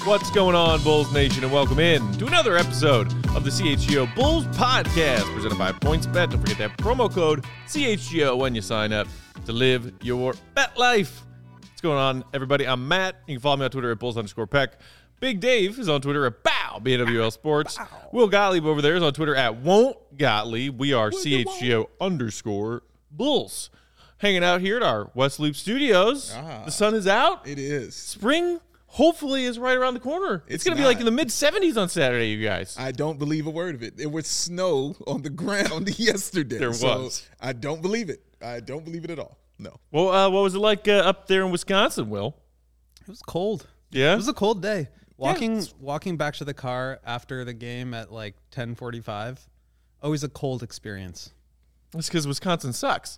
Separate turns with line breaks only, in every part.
What's going on, Bulls Nation, and welcome in to another episode of the CHGO Bulls Podcast, presented by PointsBet. Don't forget that promo code CHGO when you sign up to live your bet life. What's going on, everybody? I'm Matt. You can follow me on Twitter at Bulls_Peck. Big Dave is on Twitter at Bow, BNWL Sports. Bow. Will Gottlieb over there is on Twitter at Won't Gottlieb. We are CHGO_Bulls. Hanging out here at our West Loop Studios. The sun is out.
It is.
Spring hopefully is right around the corner. It's going to be like in the mid-70s on Saturday, you guys.
I don't believe a word of it. There was snow on the ground yesterday.
There was.
I don't believe it. I don't believe it at all. No.
Well, what was it like up there in Wisconsin, Will?
It was cold.
Yeah?
It was a cold day. Walking back to the car after the game at like 10:45, always a cold experience.
That's because Wisconsin sucks.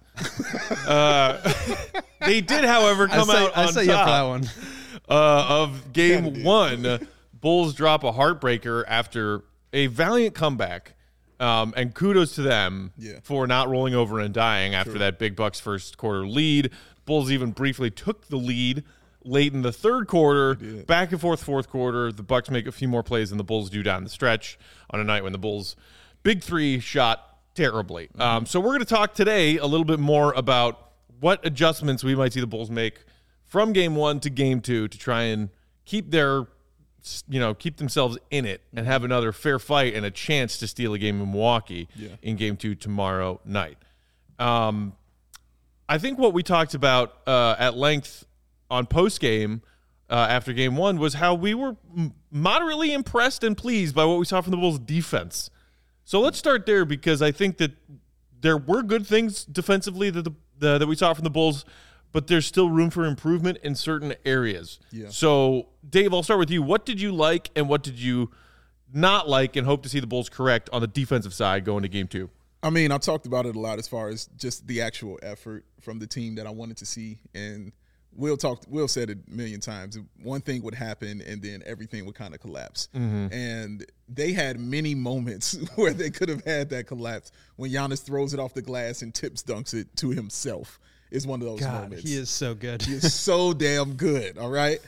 They did, however, come out on top.
Yeah, for that one.
Of game one. Bulls drop a heartbreaker after a valiant comeback. And kudos to them for not rolling over and dying after that big Bucks first quarter lead. Bulls even briefly took the lead late in the third quarter, back and forth fourth quarter. The Bucks make a few more plays than the Bulls do down the stretch on a night when the Bulls' big three shot terribly. So we're going to talk today a little bit more about what adjustments we might see the Bulls make from game one to game two to try and keep themselves in it and have another fair fight and a chance to steal a game in Milwaukee in game two tomorrow night. I think what we talked about at length on post-game after game one was how we were moderately impressed and pleased by what we saw from the Bulls' defense. So let's start there, because I think that there were good things defensively that we saw from the Bulls, but there's still room for improvement in certain areas. Yeah. So, Dave, I'll start with you. What did you like and what did you not like and hope to see the Bulls correct on the defensive side going to game two?
I mean, I talked about it a lot as far as just the actual effort from the team that I wanted to see. And Will said it a million times. One thing would happen, and then everything would kind of collapse. Mm-hmm. And they had many moments where they could have had that collapse. When Giannis throws it off the glass and tips dunks it to himself is one of those moments.
He is so good.
He is so damn good. All right.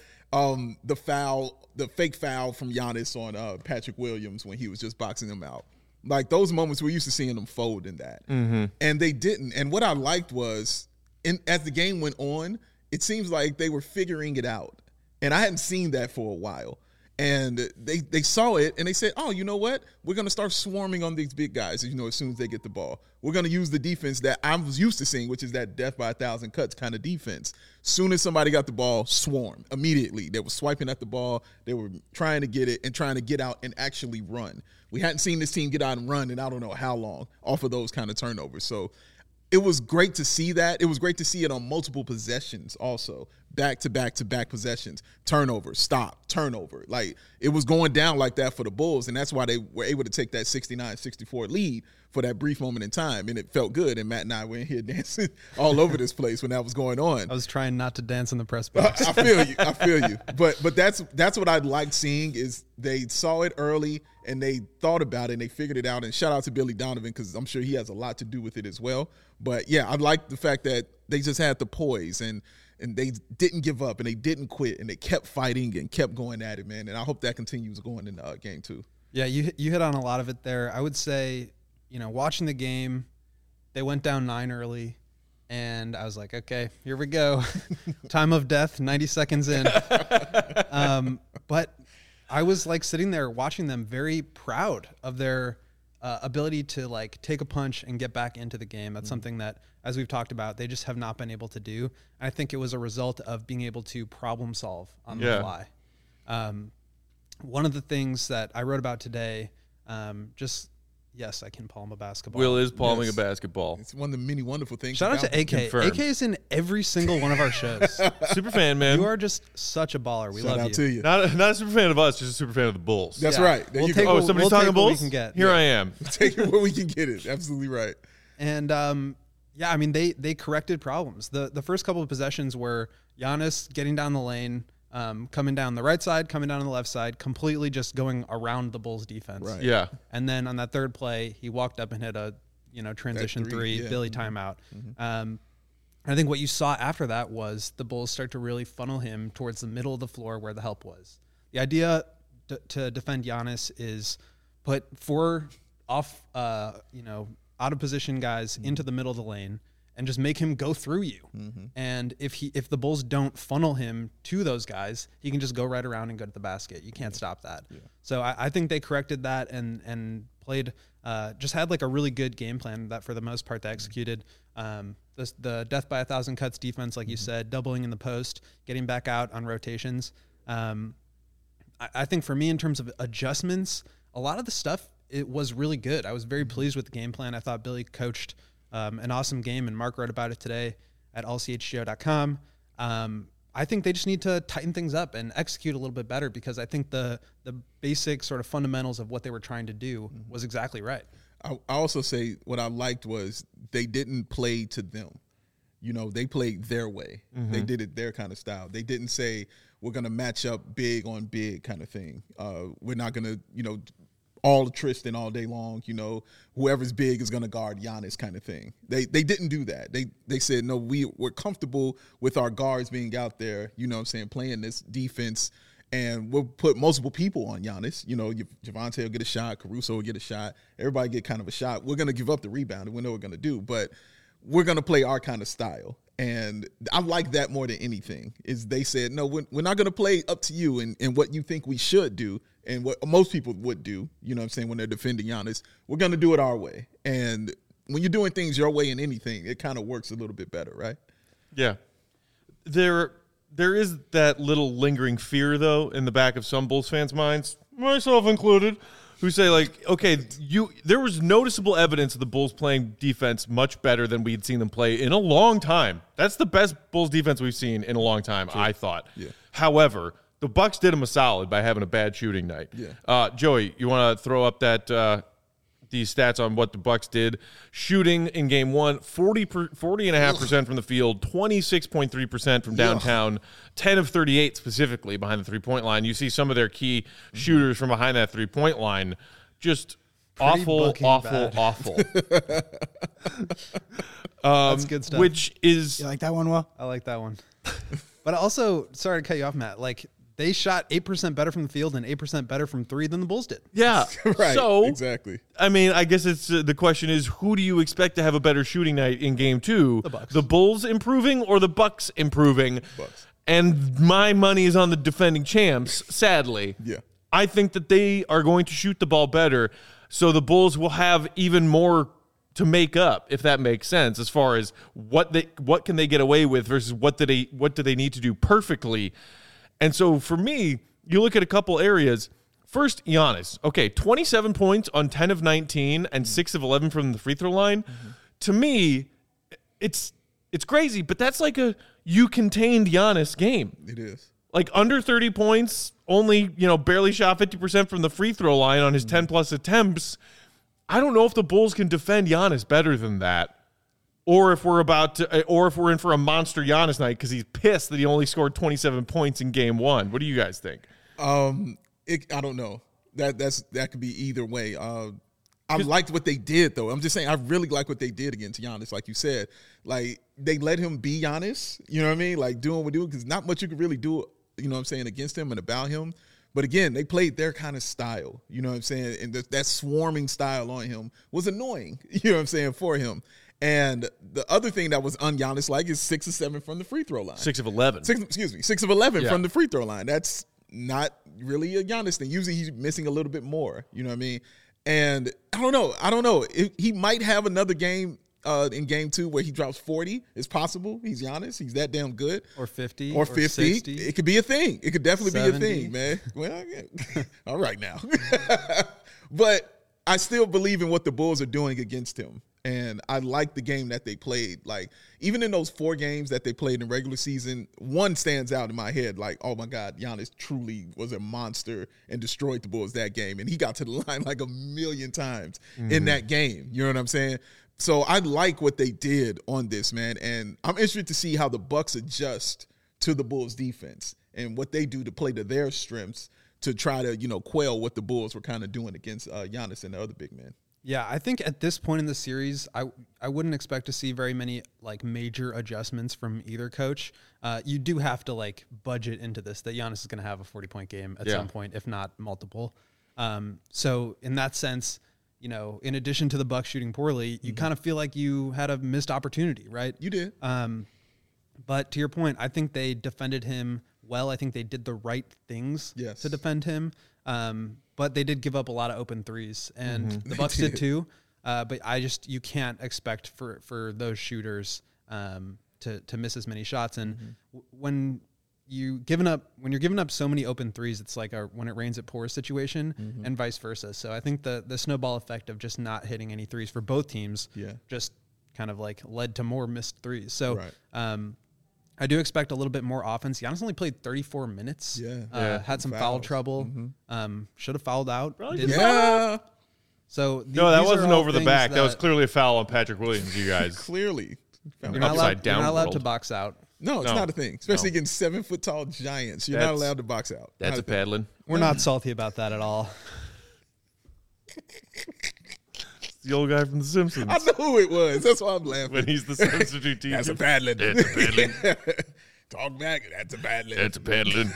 The fake foul from Giannis on Patrick Williams when he was just boxing him out. Like, those moments, we're used to seeing them fold in that. Mm-hmm. And they didn't. And what I liked was, as the game went on, it seems like they were figuring it out. And I hadn't seen that for a while. And they saw it, and they said, oh, you know what? We're going to start swarming on these big guys, as soon as they get the ball. We're going to use the defense that I was used to seeing, which is that death by 1,000 cuts kind of defense. Soon as somebody got the ball, swarm immediately. They were swiping at the ball. They were trying to get it and trying to get out and actually run. We hadn't seen this team get out and run in I don't know how long off of those kind of turnovers. So it was great to see that. It was great to see it on multiple possessions also. Back-to-back-to-back possessions. Turnover, stop, turnover. Like, it was going down like that for the Bulls, and that's why they were able to take that 69-64 lead for that brief moment in time, and it felt good. And Matt and I were in here dancing all over this place when that was going on.
I was trying not to dance in the press box.
I feel you. But that's what I liked seeing, is they saw it early and they thought about it and they figured it out. And shout out to Billy Donovan, because I'm sure he has a lot to do with it as well. But yeah, I like the fact that they just had the poise and they didn't give up and they didn't quit and they kept fighting and kept going at it, man. And I hope that continues going in game two.
Yeah, you hit on a lot of it there. I would say, watching the game, they went down 9 early, and I was like, okay, here we go. Time of death, 90 seconds in. But I was like sitting there watching them, very proud of their ability to like take a punch and get back into the game. That's something that, as we've talked about, they just have not been able to do. And I think it was a result of being able to problem solve on the fly. One of the things that I wrote about today, yes, I can palm a basketball.
Will is palming a basketball.
It's one of the many wonderful things.
Shout out to AK.
Confirmed.
AK is in every single one of our shows.
Super fan, man.
You are just such a baller. We
Shout
love
out to you.
Not a super fan of us, just a super fan of the Bulls.
That's right. There you
go.
Somebody's talking Bulls?
We can get.
Here I am.
Take it where we can get it. Absolutely right.
And I mean, they corrected problems. The first couple of possessions were Giannis getting down the lane, coming down the right side, coming down on the left side, completely just going around the Bulls defense.
Right.
Yeah.
And then on that third play, he walked up and hit a transition three, Billy timeout. Mm-hmm. I think what you saw after that was the Bulls start to really funnel him towards the middle of the floor where the help was. The idea to defend Giannis is put 4 off, out of position guys into the middle of the lane and just make him go through you. And if the Bulls don't funnel him to those guys, he can just go right around and go to the basket. You can't stop that. Yeah. So I think they corrected that and played, just had like a really good game plan that for the most part they executed. The death by 1,000 cuts defense, like you said, doubling in the post, getting back out on rotations. I think for me, in terms of adjustments, a lot of the stuff, it was really good. I was very pleased with the game plan. I thought Billy coached an awesome game, and Mark wrote about it today at allchgo.com. I think they just need to tighten things up and execute a little bit better, because I think the basic sort of fundamentals of what they were trying to do was exactly right.
I also say what I liked was they didn't play to them. They played their way. They did it their kind of style. They didn't say, we're going to match up big on big kind of thing. We're not going to, all Tristan all day long, whoever's big is going to guard Giannis kind of thing. They didn't do that. They said, no, we're comfortable with our guards being out there, playing this defense, and we'll put multiple people on Giannis. Javonte will get a shot, Caruso will get a shot, everybody get kind of a shot. We're going to give up the rebound, and we know what we're going to do, but we're going to play our kind of style. And I like that more than anything, is they said, no, we're not going to play up to you and what you think we should do and what most people would do, when they're defending Giannis. We're going to do it our way. And when you're doing things your way in anything, it kind of works a little bit better, right?
Yeah. There is that little lingering fear, though, in the back of some Bulls fans' minds, myself included, who say, like, okay, there was noticeable evidence of the Bulls playing defense much better than we had seen them play in a long time. That's the best Bulls defense we've seen in a long time, I thought. Yeah. However, the Bucks did them a solid by having a bad shooting night. Yeah. Joey, you want to throw up these stats on what the Bucks did? Shooting in game 1, 40.5% from the field, 26.3% from downtown, 10 of 38 specifically behind the three-point line. You see some of their key shooters from behind that three-point line. Just pretty awful.
That's good stuff.
Which is...
You like that one, Will?
I like that one. But also, sorry to cut you off, Matt, they shot 8% better from the field and 8% better from 3 than the Bulls did.
Yeah.
Right.
So,
exactly.
I mean, I guess it's the question is, who do you expect to have a better shooting night in game 2?
The Bucks.
The Bulls improving or the Bucks improving?
Bucks.
And my money is on the defending champs, sadly.
Yeah.
I think that they are going to shoot the ball better, so the Bulls will have even more to make up, if that makes sense, as far as what can they get away with versus what do they need to do perfectly. And so for me, you look at a couple areas. First, Giannis. Okay, 27 points on 10 of 19 and 6 of 11 from the free throw line. To me, it's crazy, but that's like you contained Giannis game.
It is.
Like under 30 points, only, barely shot 50% from the free throw line on his 10 plus attempts. I don't know if the Bulls can defend Giannis better than that. Or if we're in for a monster Giannis night because he's pissed that he only scored 27 points in game 1. What do you guys think?
I don't know. That could be either way. I liked what they did, though. I'm just saying, I really like what they did against Giannis, like you said. Like, they let him be Giannis, you know what I mean? Like, doing what we do, because not much you could really do, against him and about him. But again, they played their kind of style, you know what I'm saying? And that swarming style on him was annoying, you know what I'm saying, for him. And the other thing that was un-Giannis-like is 6 of 7 from the free throw line.
6 of 11.
6 of 11 from the free throw line. That's not really a Giannis thing. Usually he's missing a little bit more, you know what I mean? And I don't know. He might have another game in game 2 where he drops 40. It's possible. He's Giannis. He's that damn good.
Or 50.
Or 50.
60.
It could be a thing. It could definitely
70.
be a thing, man. Well, yeah. All right now. But I still believe in what the Bulls are doing against him. And I like the game that they played. Like, even in those 4 games that they played in regular season, one stands out in my head. Like, oh, my God, Giannis truly was a monster and destroyed the Bulls that game. And he got to the line like a million times in that game. You know what I'm saying? So I like what they did on this, man. And I'm interested to see how the Bucks adjust to the Bulls defense and what they do to play to their strengths to try to, quell what the Bulls were kind of doing against Giannis and the other big men.
Yeah, I think at this point in the series, I wouldn't expect to see very many like major adjustments from either coach. You do have to like budget into this that Giannis is going to have a 40-point game at some point, if not multiple. So in that sense, you know, in addition to the Bucks shooting poorly, you kind of feel like you had a missed opportunity, right?
You did.
But to your point, I think they defended him well. I think they did the right things to defend him. But they did give up a lot of open threes, and the Bucks did too. But you can't expect for those shooters to miss as many shots. And when you're giving up so many open threes, it's like when it rains it pours situation, and vice versa. So I think the snowball effect of just not hitting any threes for both teams just kind of like led to more missed threes. So I do expect a little bit more offense. Giannis only played 34 minutes. Had some foul trouble. Should have fouled out. So
that wasn't over the back. That was clearly a foul on Patrick Williams, you guys.
Clearly.
You're not allowed to box out.
No, it's not a thing. Especially against 7-foot-tall giants. You're not allowed to box out.
That's a paddling.
We're not salty about that at all.
The old guy from The Simpsons.
I know who it was. That's why I'm laughing.
When he's the substitute teacher.
That's a paddling.
That's a paddling.
Talk back. That's a paddling.
That's a paddling.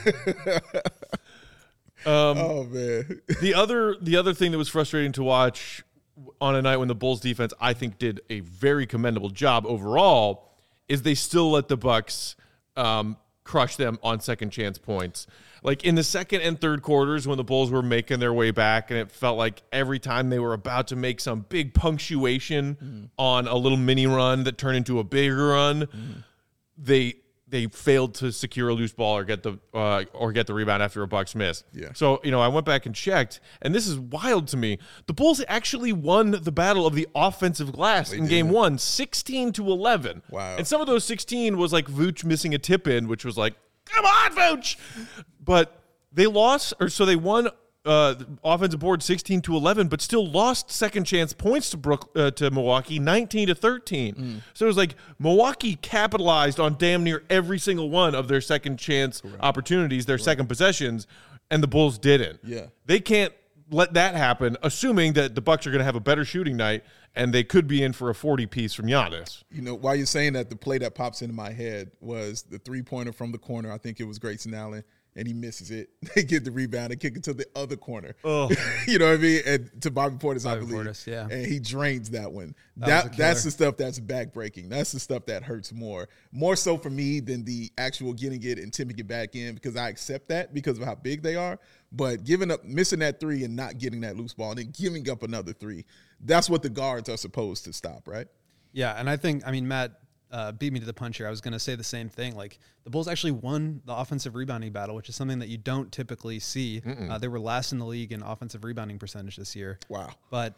Oh man.
The other thing that was frustrating to watch on a night when the Bulls defense, I think, did a very commendable job overall, is they still let the Bucks crush them on second chance points. Like in the second and third quarters when the Bulls were making their way back, and it felt like every time they were about to make some big punctuation on a little mini run that turned into a bigger run, they failed to secure a loose ball or get the rebound after a Bucks miss. So, I went back and checked, and this is wild to me. The Bulls actually won the battle of the offensive glass in game one, 16-11.
Wow.
And some of those 16 was like Vooch missing a tip in, which was like, come on, Vooch. But they lost, they won offensive board 16-11, but still lost second chance points to Milwaukee 19-13. So it was like Milwaukee capitalized on damn near every single one of their second chance opportunities, their second possessions, and the Bulls didn't. They can't let that happen, assuming that the Bucks are going to have a better shooting night, and they could be in for a 40-piece from Giannis.
While you're saying that, the play that pops into my head was the three-pointer from the corner. I think it was Grayson Allen. And he misses it. They get the rebound and kick it to the other corner. You know what I mean? And to Bobby Portis, I believe. And he drains that one. That's the stuff that's backbreaking. That's the stuff that hurts more. More so for me than the actual getting it and tipping it back in, because I accept that because of how big they are. But missing that three and not getting that loose ball and then giving up another three, that's what the guards are supposed to stop, right?
Yeah, and I think, Matt beat me to the punch here. I was going to say the same thing. Like, the Bulls actually won the offensive rebounding battle, which is something that you don't typically see. They were last in the league in offensive rebounding percentage this year.
Wow.
But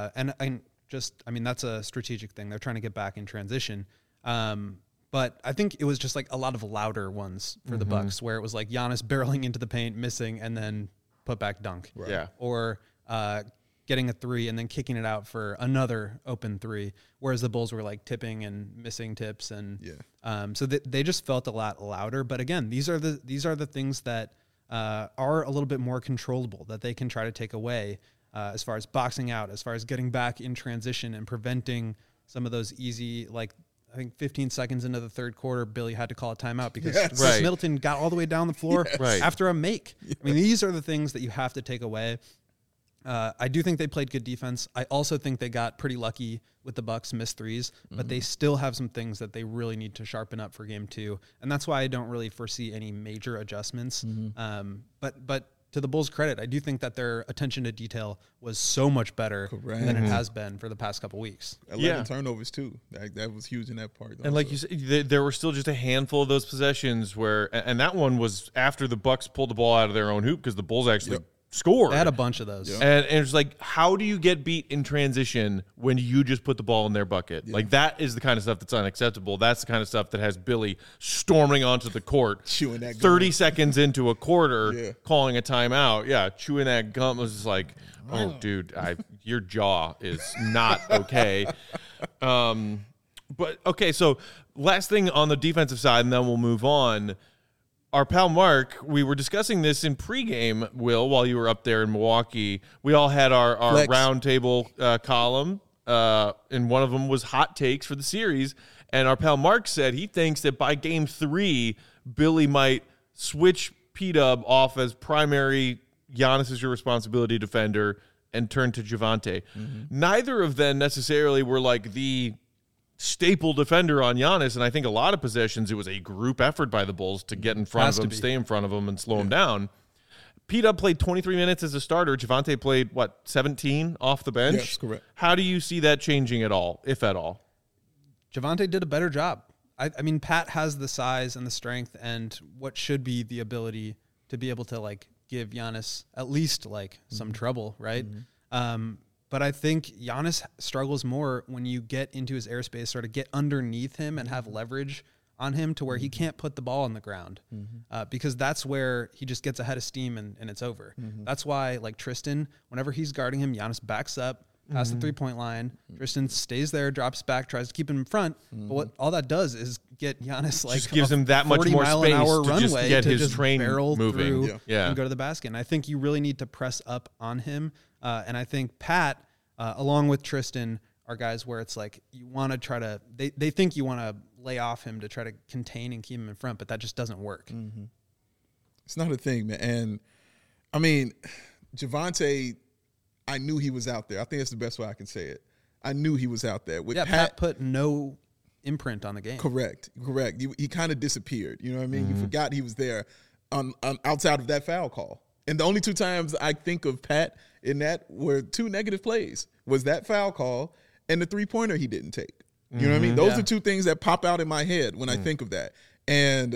that's a strategic thing. They're trying to get back in transition. But I think it was just like a lot of louder ones for the Bucks, where it was like Giannis barreling into the paint, missing, and then put back dunk.
Right.
Yeah.
Or getting a three and then kicking it out for another open three, whereas the Bulls were like tipping and missing tips, and so they just felt a lot louder. But again, these are the things that are a little bit more controllable, that they can try to take away as far as boxing out, as far as getting back in transition and preventing some of those easy, like, I think 15 seconds into the third quarter, Billy had to call a timeout because Chris Middleton got all the way down the floor after a make. I mean, these are the things that you have to take away. I do think they played good defense. I also think they got pretty lucky with the Bucks missed threes, but they still have some things that they really need to sharpen up for game two. And that's why I don't really foresee any major adjustments. But to the Bulls' credit, I do think that their attention to detail was so much better than it has been for the past couple weeks.
11 turnovers too. That was huge in that part.
And like you said, there were still just a handful of those possessions where, and that one was after the Bucks pulled the ball out of their own hoop because the Bulls actually scored.
They had a bunch of those.
And it's like, how do you get beat in transition when you just put the ball in their bucket? Like, that is the kind of stuff that's unacceptable. That's the kind of stuff that has Billy storming onto the court,
chewing that
30 seconds into a quarter, calling a timeout. Yeah, chewing that gum was just like, oh, dude, your jaw is not okay. But, okay, so last thing on the defensive side, and then we'll move on. our pal Mark, we were discussing this in pregame, Will, while you were up there in Milwaukee. We all had our roundtable column, and one of them was hot takes for the series. And our pal Mark said he thinks that by game 3, Billy might switch P-Dub off as primary Giannis is your responsibility defender and turn to Javonte. Neither of them necessarily were like the staple defender on Giannis, and I think a lot of possessions it was a group effort by the Bulls to get in front of him, stay in front of him, and slow him down. P-Dub played 23 minutes as a starter. Javonte played, 17 off the bench?
Yes, correct.
How do you see that changing at all, if at all?
Javonte did a better job. I mean, Pat has the size and the strength and what should be the ability to be able to, give Giannis at least, some trouble, right? But I think Giannis struggles more when you get into his airspace, sort of get underneath him and have leverage on him to where he can't put the ball on the ground because that's where he just gets ahead of steam and it's over. That's why, Tristan, whenever he's guarding him, Giannis backs up past the three-point line. Tristan stays there, drops back, tries to keep him in front. But what all that does is get Giannis
just gives him that much more space to just get his train moving
and go to the basket. And I think you really need to press up on him. And I think Pat, along with Tristan, are guys where it's you want to try to they think you want to lay off him to try to contain and keep him in front, but that just doesn't work.
It's not a thing, man. And I mean, Javonte, I knew he was out there. I think that's the best way I can say it. I knew he was out there. With
Pat put no imprint on the game.
Correct. He kind of disappeared. You know what I mean? You forgot he was there on outside of that foul call. And the only 2 times I think of Pat in that were 2 negative plays. Was that foul call and the 3-pointer he didn't take. You know what I mean? Those are 2 things that pop out in my head when I think of that. And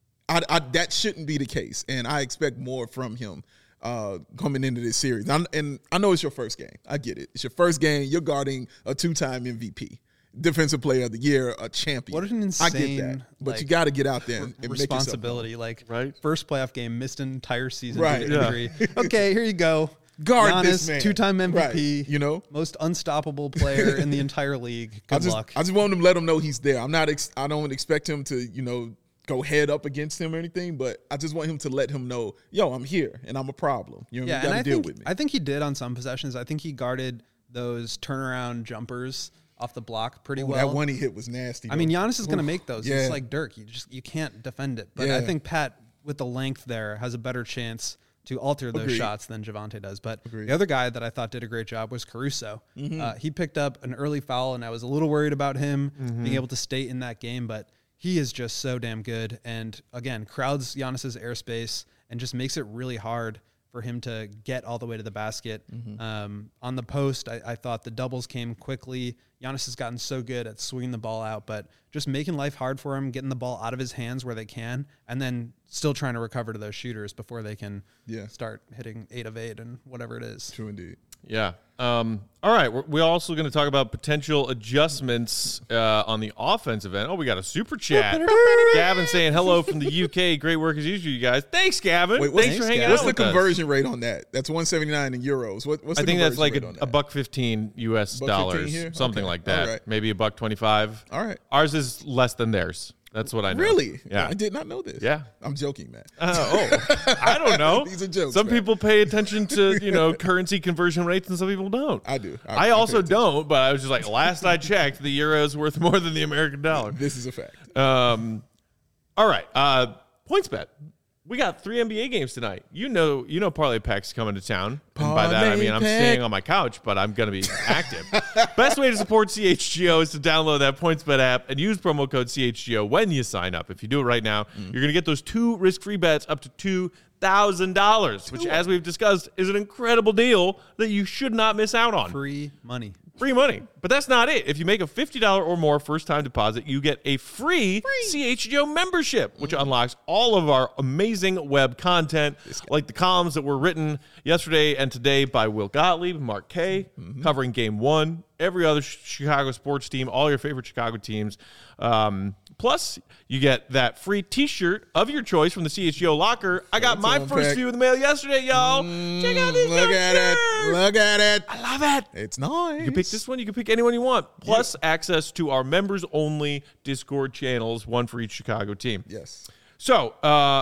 I that shouldn't be the case. And I expect more from him coming into this series. And I know it's your first game. I get it. It's your first game. You're guarding a 2-time MVP. Defensive Player of the Year, a champion.
What an insane,
I get that. But you got to get out there and
responsibility.
Make
right?
First playoff game, missed an entire season.
Right.
Injury. Okay, here you go.
Guard
Giannis,
this man.
2-time MVP.
Right.
Most unstoppable player in the entire league. Good luck.
I just want him to let him know he's there. I don't expect him to, go head up against him or anything, but I just want him to let him know, yo, I'm here and I'm a problem. You got to deal with me.
I think he did on some possessions. I think he guarded those turnaround jumpers off the block pretty well.
That one he hit was nasty.
I mean, Giannis is going to make those.
Yeah.
It's like Dirk. You can't defend it. But I think Pat, with the length there, has a better chance to alter those shots than Javonte does. But the other guy that I thought did a great job was Caruso. He picked up an early foul, and I was a little worried about him being able to stay in that game. But he is just so damn good. And, again, crowds Giannis's airspace and just makes it really hard for him to get all the way to the basket. On the post, I thought the doubles came quickly. Giannis has gotten so good at swinging the ball out, but just making life hard for him, getting the ball out of his hands where they can, and then still trying to recover to those shooters before they can start hitting 8 of 8 and whatever it is.
True indeed.
Yeah. All right. We're also going to talk about potential adjustments on the offensive end. Oh, we got a super chat. Gavin saying hello from the UK. Great work as usual, you guys. Thanks, Gavin. Thanks for hanging out with us.
What's the conversion rate on that? That's 179 in euros. What's the
I think that's like
$1.15
$1.15 US dollars,
here?
something like that.
Right.
Maybe $1.25.
All right.
Ours is less than theirs. That's what I know.
Really?
Yeah.
I did not know this.
Yeah.
I'm joking, man.
I don't know.
These are jokes.
Some
man.
people pay attention to, currency conversion rates and some people don't.
I do.
I also don't, but I was just like, last I checked, the euro is worth more than the American dollar.
This is a fact.
All right. PointsBet. We got 3 NBA games tonight. You know Parlay Pack's coming to town. And by that, I mean I'm staying on my couch, but I'm going to be active. Best way to support CHGO is to download that PointsBet app and use promo code CHGO when you sign up. If you do it right now, you're going to get those 2 risk-free bets up to $2,000, which, as we've discussed, is an incredible deal that you should not miss out on.
Free money.
But that's not it. If you make a $50 or more first-time deposit, you get a free CHGO membership, which unlocks all of our amazing web content, like the columns that were written yesterday and today by Will Gottlieb, Mark Kay, covering Game 1, every other Chicago sports team, all your favorite Chicago teams. Plus, you get that free T-shirt of your choice from the CHGO locker. I got my first few in the mail yesterday, y'all. Check out this
Look at it. Look at it.
I love it.
It's nice.
You can pick this one. You can pick anyone you want. Plus, access to our members-only Discord channels, one for each Chicago team.
Yes.
So,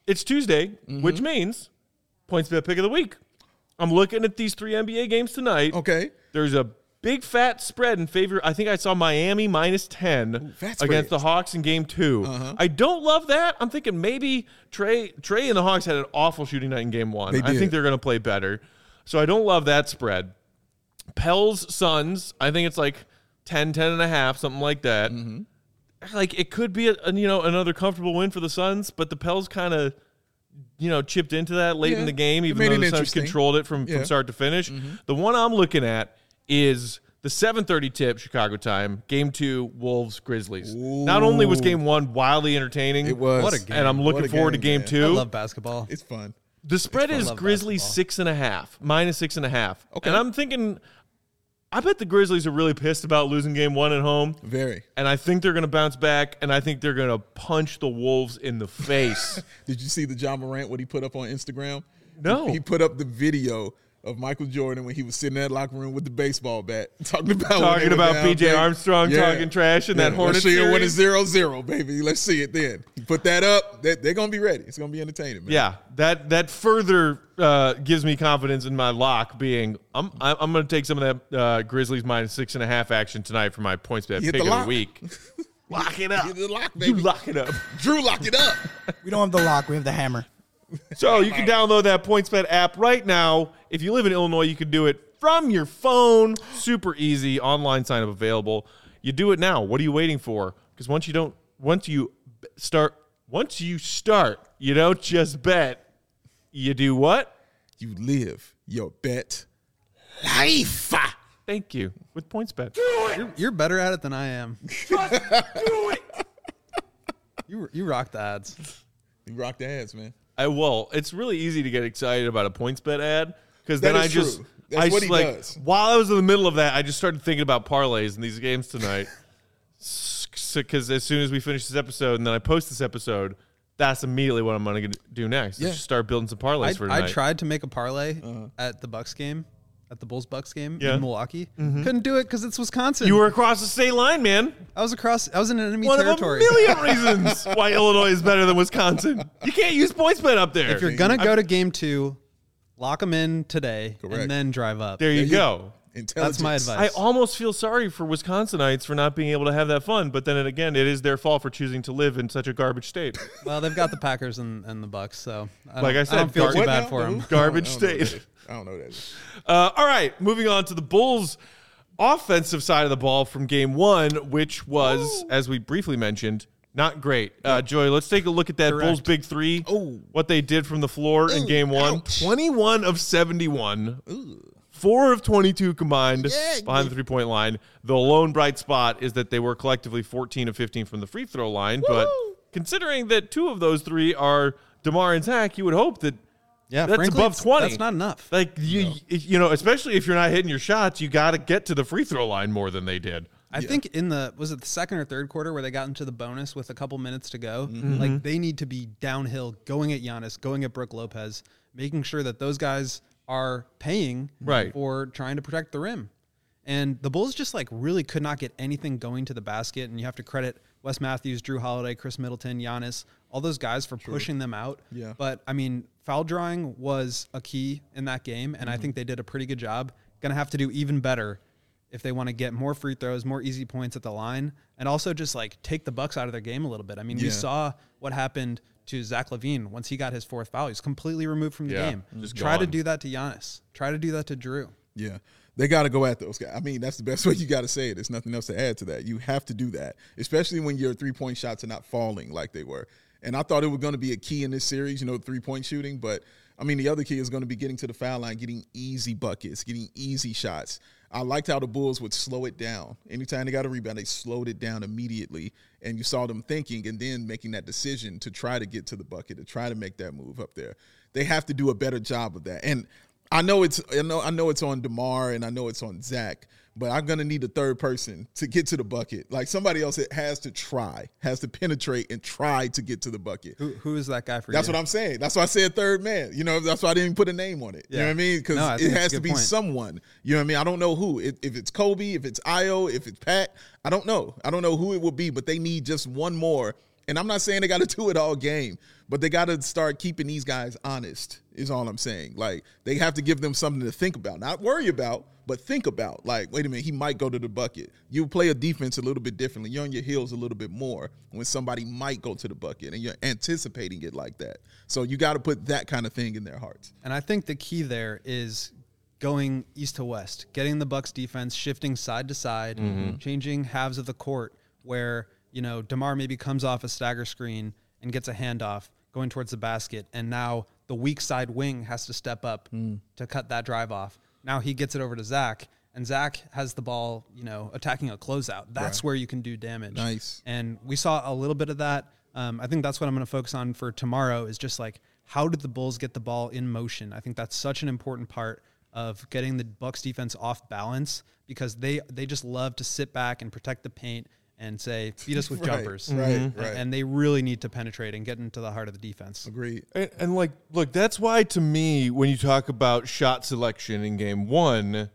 it's Tuesday, which means PointsBet pick of the week. I'm looking at these 3 NBA games tonight.
Okay.
There's a big fat spread in favor. I think I saw Miami -10 against the Hawks in game 2. I don't love that. I'm thinking maybe Trey and the Hawks had an awful shooting night in game 1. I think they're going to play better. So I don't love that spread. Pels Suns, I think it's like 10.5, something like that. Like it could be another comfortable win for the Suns, but the Pels kind of chipped into that late in the game, even though the Suns controlled it from start to finish. The one I'm looking at is the 7:30 tip Chicago time, game 2, Wolves Grizzlies. Not only was game 1 wildly entertaining,
It was.
What a game.
and I'm looking forward to game 2.
I love basketball.
It's fun.
The spread is
love
Grizzlies
basketball.
-6.5.
Okay.
And I'm thinking, I bet the Grizzlies are really pissed about losing game 1 at home.
Very.
And I think they're going to bounce back, and I think they're going to punch the Wolves in the face.
Did you see the John Morant, what he put up on Instagram?
No.
He put up the video of Michael Jordan when he was sitting in that locker room with the baseball bat, talking about
PJ Armstrong talking trash in that Hornets
series. When
series.
it's 0-0, baby. Let's see it then. He put that up. They're going to be ready. It's going to be entertaining, man.
Yeah, that further gives me confidence in my lock being I'm going to take some of that Grizzlies -6.5 action tonight for my PointsBet
Hit
pick
the
of the
lock.
week. Lock it up.
Get the lock,
You
baby.
lock it up.
Drew, lock it up.
We don't have the lock. We have the hammer.
So you can download that PointsBet app right now. If you live in Illinois, you can do it from your phone. Super easy. Online sign up available. You do it now. What are you waiting for? Because once you start, you don't just bet. You do what?
You live your bet life.
Thank you. With PointsBet.
You're better at it than I am.
Do it.
You rock the ads.
You rock the ads, man.
It's really easy to get excited about a PointsBet ad because
That
then
is
I just
true. That's what he does.
While I was in the middle of that, I just started thinking about parlays in these games tonight. Because as soon as we finish this episode and then I post this episode, that's immediately what I'm going to do next.
Yeah.
Just start building some parlays for tonight.
I tried to make a parlay at the Bucks game, at the Bulls-Bucks game
Yeah.
in Milwaukee. Couldn't do it because it's Wisconsin.
You were across the state line, man.
I was in enemy
One
territory.
of a million reasons why Illinois is better than Wisconsin. You can't use PointsBet up there.
If you're gonna go to game 2, lock them in today
Correct.
and then drive up.
there you go.
Intelligence.
That's my advice.
I almost feel sorry for Wisconsinites for not being able to have that fun, but then again, it is their fault for choosing to live in such a garbage state.
Well, they've got the Packers and the Bucks, so
Like I said,
I don't feel too
What
bad
now?
for them.
Garbage
I don't know what that
state.
is. I don't know what that is.
All right, moving on to the Bulls' offensive side of the ball from game 1, which was, as we briefly mentioned, not great. Joy, let's take a look at that
Correct.
Bulls Big Three.
Oh.
What they did from the floor in game 1.
ouch.
21 of 71. 4 of 22 combined
Yeah.
behind the three-point line. The lone bright spot is that they were collectively 14 of 15 from the free throw line. But considering that 2 of those 3 are DeMar and Zach, you would hope that
Yeah,
that's
frankly,
above 20.
That's not enough.
Like you know, especially if you're not hitting your shots, you got to get to the free throw line more than they did.
I think was it the second or third quarter where they got into the bonus with a couple minutes to go? Like they need to be downhill, going at Giannis, going at Brook Lopez, making sure that those guys are paying
Right.
for trying to protect the rim. And the Bulls just like really could not get anything going to the basket. And you have to credit Wes Matthews, Drew Holiday, Chris Middleton, Giannis, all those guys for pushing them out.
Yeah.
But I mean, foul drawing was a key in that game. And I think they did a pretty good job. Going to have to do even better if they want to get more free throws, more easy points at the line, and also just like take the Bucks out of their game a little bit. I mean, we
Yeah.
saw what happened to Zach LaVine once he got his 4th foul. He's completely removed from the
Yeah,
game.
just
Try to
gone.
do that to Giannis. Try to do that to Drew.
Yeah. They got to go at those guys. I mean, that's the best way you got to say it. There's nothing else to add to that. You have to do that, especially when your three-point shots are not falling like they were. And I thought it was going to be a key in this series, three-point shooting. But, I mean, the other key is going to be getting to the foul line, getting easy buckets, getting easy shots. I liked how the Bulls would slow it down. Anytime they got a rebound, they slowed it down immediately. And you saw them thinking and then making that decision to try to get to the bucket, to try to make that move up there. They have to do a better job of that. And I know it's on DeMar and I know it's on Zach, but I'm gonna need a third person to get to the bucket. Like somebody else that has to penetrate and try to get to the bucket.
Who is that guy for
That's
you?
what I'm saying. That's why I said third man. That's why I didn't even put a name on it. You know
Yeah.
what I mean? Because
No, I think
it
that's
has
a
to
good
be
point.
someone. You know what I mean? I don't know who. If it's Kobe, if it's Io, if it's Pat, I don't know. I don't know who it will be, but they need just one more And I'm not saying they got to do it all game, but they got to start keeping these guys honest is all I'm saying. Like, they have to give them something to think about. Not worry about, but think about. Like, wait a minute, he might go to the bucket. You play a defense a little bit differently. You're on your heels a little bit more when somebody might go to the bucket, and you're anticipating it like that. So you got to put that kind of thing in their hearts.
And I think the key there is going east to west, getting the Bucks defense shifting side to side, changing halves of the court where, you know, DeMar maybe comes off a stagger screen and gets a handoff going towards the basket, and now the weak side wing has to step up to cut that drive off. Now he gets it over to Zach, and Zach has the ball, you know, attacking a closeout. That's where you can do damage.
Nice.
And we saw a little bit of that. I think that's what I'm going to focus on for tomorrow is just like, how did the Bulls get the ball in motion? I think that's such an important part of getting the Bucks defense off balance, because they just love to sit back and protect the paint and say, beat us with jumpers.
Right.
And they really need to penetrate and get into the heart of the defense.
Agreed.
And like, look, that's why to me, when you talk about shot selection in game one,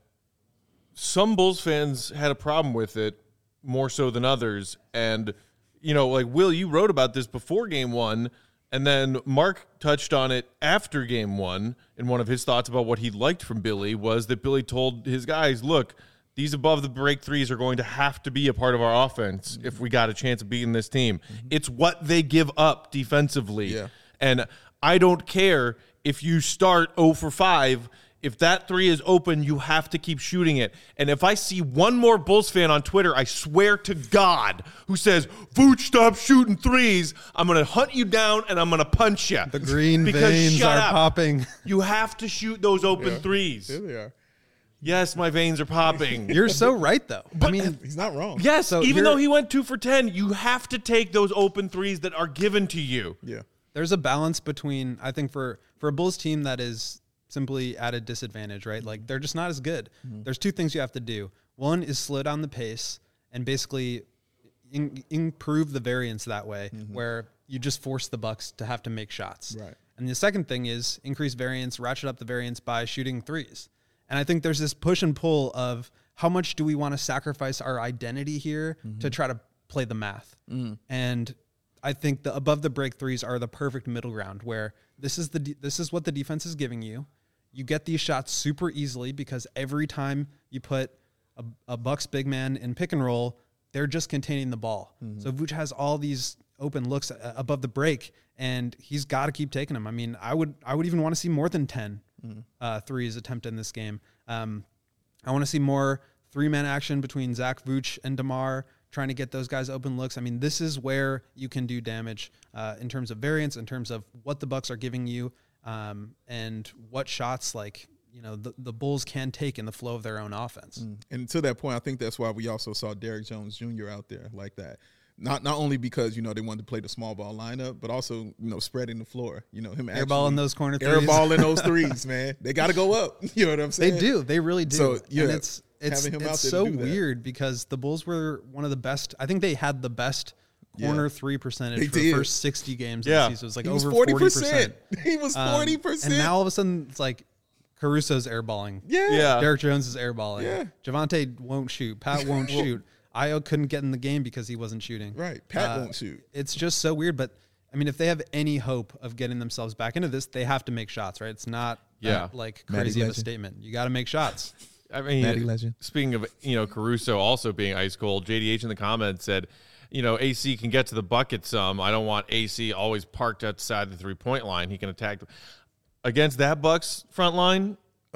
some Bulls fans had a problem with it more so than others. And, you know, like, Will, you wrote about this before game one, and then Mark touched on it after game one. And one of his thoughts about what he liked from Billy was that Billy told his guys, look, these above the break threes are going to have to be a part of our offense if we got a chance of beating this team. It's what they give up defensively.
Yeah.
And I don't care if you start 0 for 5. If that three is open, you have to keep shooting it. And if I see one more Bulls fan on Twitter, I swear to God, who says, Vooch, stop shooting threes, I'm going to hunt you down and I'm going to punch you.
The green
Because
veins
shut
are
up.
popping.
You have to shoot those open threes.
There they are.
Yes, my veins are popping.
You're so right, though. I mean,
He's not wrong.
Yes,
So
even
here-
though he went 2 for 10, you have to take those open threes that are given to you.
Yeah.
there's a balance between, I think, for a Bulls team that is simply at a disadvantage, right? Like, they're just not as good. Mm-hmm. There's two things you have to do. One is slow down the pace and basically improve the variance that way, where you just force the Bucks to have to make shots.
Right.
And the second thing is increase variance, ratchet up the variance by shooting threes. And I think there's this push and pull of how much do we want to sacrifice our identity here to try to play the math. And I think the above the break threes are the perfect middle ground, where this is what the defense is giving you. You get these shots super easily because every time you put a Bucks big man in pick and roll, they're just containing the ball. So Vooch has all these open looks above the break, and he's got to keep taking them. I mean, I would even want to see more than 10 threes attempted in this game. I want to see more three-man action between Zach, Vooch, and DeMar, trying to get those guys open looks. I mean, this is where you can do damage in terms of variance, in terms of what the Bucks are giving you, and what shots, like, you know, the Bulls can take in the flow of their own offense.
And to that point, I think that's why we also saw Derrick Jones Jr. out there like that. Not only because, you know, they wanted to play the small ball lineup, but also, you know, spreading the floor. You know, him
Airballing those corner threes.
Airballing those threes, man. They got to go up. You know what I'm saying?
They do. They really do.
So, yeah,
and it's
having him out there to
so
do that.
weird because the Bulls were one of the best. I think they had the best corner three percentage
They
for the
did.
first 60 games of
Yeah.
the season. It was like
He was
over
40%.
40%.
He was 40%.
And now all of a sudden it's like Caruso's airballing.
yeah.
Derrick Jones is airballing.
Yeah.
Javante won't shoot. Pat won't shoot. Io couldn't get in the game because he wasn't shooting.
Right. Pat won't shoot.
It's just so weird. But I mean, if they have any hope of getting themselves back into this, they have to make shots, right? It's not like crazy of a statement. You got to make shots.
I mean,
Matty Legend.
Speaking of, you know, Caruso also being ice cold, JDH in the comments said, you know, AC can get to the bucket some. I don't want AC always parked outside the 3-point line. He can attack. Against that Bucks front line,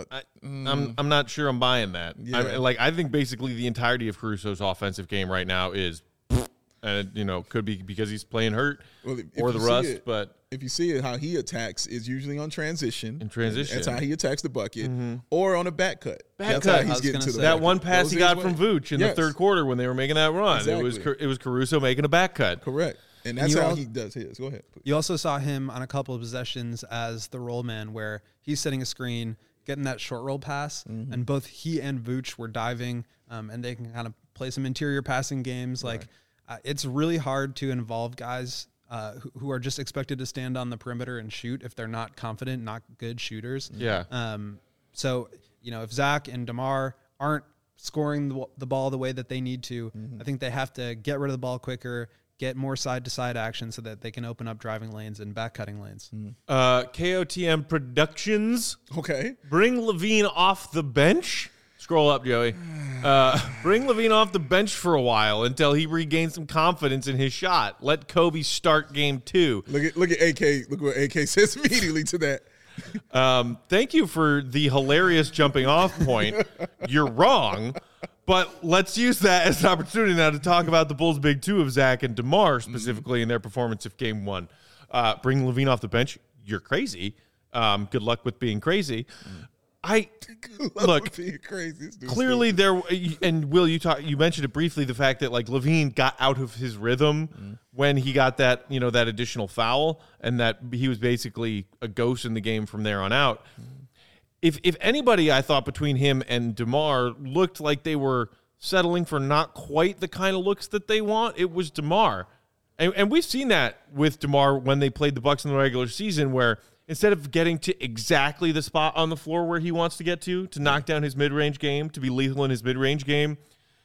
I'm not sure I'm buying that.
Yeah.
I think basically the entirety of Caruso's offensive game right now is, and you know, could be because he's playing hurt
Well, if
or the
you see
rust,
it-
but
if you see it, how he attacks is usually on transition.
In transition.
That's how he attacks the bucket. Or on a back cut.
Back
That's
cut.
how
I
he's
was
getting
gonna
to the
say.
that
bucket.
one pass
Goes
he
his
got
way.
from Vooch in
Yes.
the third quarter when they were making that run,
Exactly.
it was Caruso making a back cut.
Correct. And that's
you
how
al-
he does his. Go ahead. please.
You also saw him on a couple of possessions as the roll man, where he's setting a screen, getting that short roll pass, and both he and Vooch were diving, and they can kind of play some interior passing games. Like, it's really hard to involve guys who are just expected to stand on the perimeter and shoot if they're not confident, not good shooters.
Yeah.
So, you know, if Zach and DeMar aren't scoring the ball the way that they need to, I think they have to get rid of the ball quicker, get more side-to-side action so that they can open up driving lanes and back cutting lanes.
KOTM Productions.
Okay.
Bring Levine off the bench. Scroll up, Joey. Bring Levine off the bench for a while until he regains some confidence in his shot. Let Kobe start game 2.
Look at AK. Look what AK says immediately to that.
Thank you for the hilarious jumping off point. You're wrong, but let's use that as an opportunity now to talk about the Bulls' big 2 of Zach and DeMar specifically in their performance of game 1. Bring Levine off the bench. You're crazy. Good luck with being crazy. Look, clearly there, and Will, you mentioned it briefly, the fact that like Levine got out of his rhythm when he got that, that additional foul, and that he was basically a ghost in the game from there on out. If anybody, I thought between him and DeMar looked like they were settling for not quite the kind of looks that they want, it was DeMar. And we've seen that with DeMar when they played the Bucks in the regular season, where instead of getting to exactly the spot on the floor where he wants to get to knock down his mid-range game, to be lethal in his mid-range game,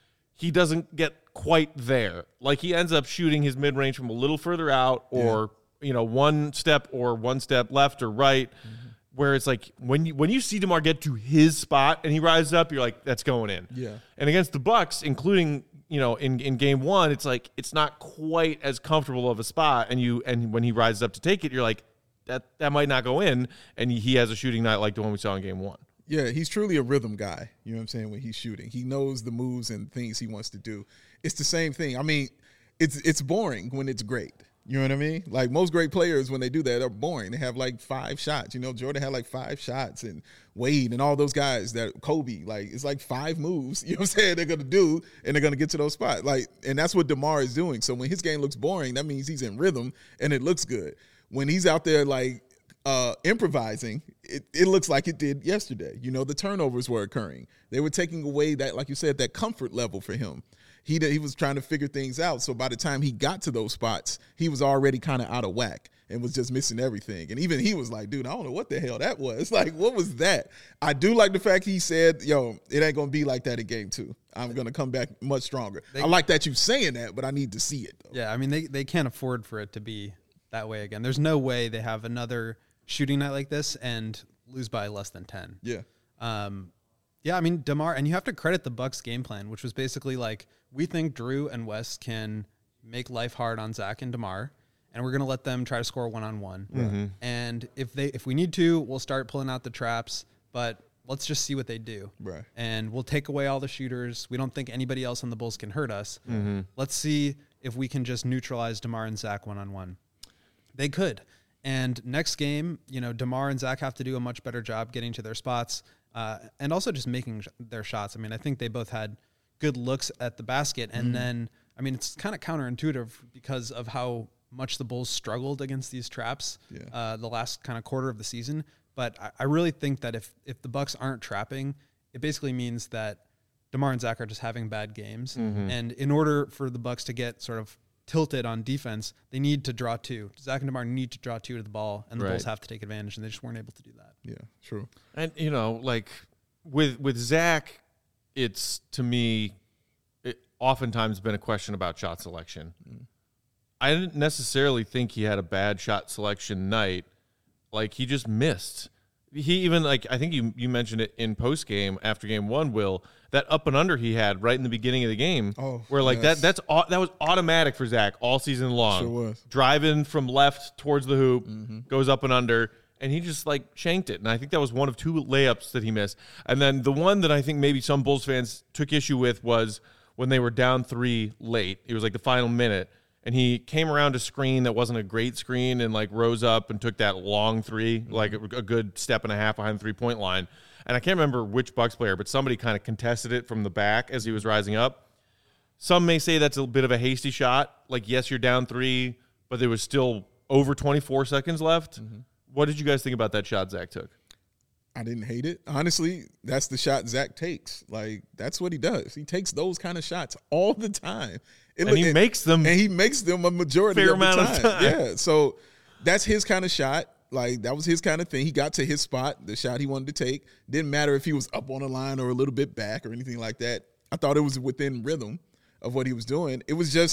he doesn't get quite there. Like, he ends up shooting his mid-range from a little further out, or one step left or right, where it's like when you see DeMar get to his spot and he rises up, you're like, that's going in.
Yeah.
And against the Bucks, including in game 1, it's like it's not quite as comfortable of a spot, and when he rises up to take it, you're like, that might not go in, and he has a shooting night like the one we saw in game 1.
Yeah, he's truly a rhythm guy. You know what I'm saying? When he's shooting, he knows the moves and things he wants to do. It's the same thing. I mean, it's boring when it's great. You know what I mean? Like, most great players, when they do that, they're boring. They have like 5 shots. Jordan had like 5 shots, and Wade and all those guys, that Kobe, like, it's like 5 moves, you know what I'm saying, they're going to do, and they're going to get to those spots. Like, and that's what DeMar is doing. So when his game looks boring, that means he's in rhythm and it looks good. When he's out there like improvising, it looks like it did yesterday. The turnovers were occurring. They were taking away that, like you said, that comfort level for him. He was trying to figure things out. So by the time he got to those spots, he was already kind of out of whack and was just missing everything. And even he was like, dude, I don't know what the hell that was. Like, what was that? I do like the fact he said, yo, it ain't going to be like that in game 2. I'm going to come back much stronger. I like that you saying that, but I need to see it, though.
Yeah, I mean, they can't afford for it to be that way again. There's no way they have another shooting night like this and lose by less than 10.
Yeah.
Yeah, I mean, DeMar, and you have to credit the Bucks game plan, which was basically like, we think Drew and Wes can make life hard on Zach and DeMar, and we're going to let them try to score one-on-one.
Mm-hmm.
And if we need to, we'll start pulling out the traps, but let's just see what they do.
Right.
And we'll take away all the shooters. We don't think anybody else on the Bulls can hurt us.
Mm-hmm.
Let's see if we can just neutralize DeMar and Zach one-on-one. They could. And next game, DeMar and Zach have to do a much better job getting to their spots and also just making their shots. I mean, I think they both had good looks at the basket. And then, I mean, it's kind of counterintuitive because of how much the Bulls struggled against these traps the last kind of quarter of the season. But I really think that if the Bucks aren't trapping, it basically means that DeMar and Zach are just having bad games. Mm-hmm. And in order for the Bucks to get sort of tilted on defense, they need to draw 2. Zach and DeMar need to draw 2 to the ball, and the Bulls have to take advantage, and they just weren't able to do that.
Yeah, true.
And, like with Zach, it's, to me, oftentimes been a question about shot selection. I didn't necessarily think he had a bad shot selection night. Like, he just missed. He even, like, I think you mentioned it in post game after game 1, Will, that up and under he had right in the beginning of the game, where like that was automatic for Zach all season long.
Sure was.
Driving from left towards the hoop, goes up and under, and he just like shanked it. And I think that was one of 2 layups that he missed. And then the one that I think maybe some Bulls fans took issue with was when they were down 3 late. It was like the final minute. And he came around a screen that wasn't a great screen and like rose up and took that long 3, like a good step and a half behind the 3-point line. And I can't remember which Bucks player, but somebody kind of contested it from the back as he was rising up. Some may say that's a bit of a hasty shot. Like, yes, you're down 3, but there was still over 24 seconds left. Mm-hmm. What did you guys think about that shot Zach took?
I didn't hate it. Honestly, that's the shot Zach takes. Like, that's what he does. He takes those kind of shots all the time.
He makes them
a majority
fair
of the
amount
time.
Of time.
Yeah, so that's his kind of shot. Like, that was his kind of thing. He got to his spot, the shot he wanted to take. Didn't matter if he was up on the line or a little bit back or anything like that. I thought it was within rhythm of what he was doing. It was just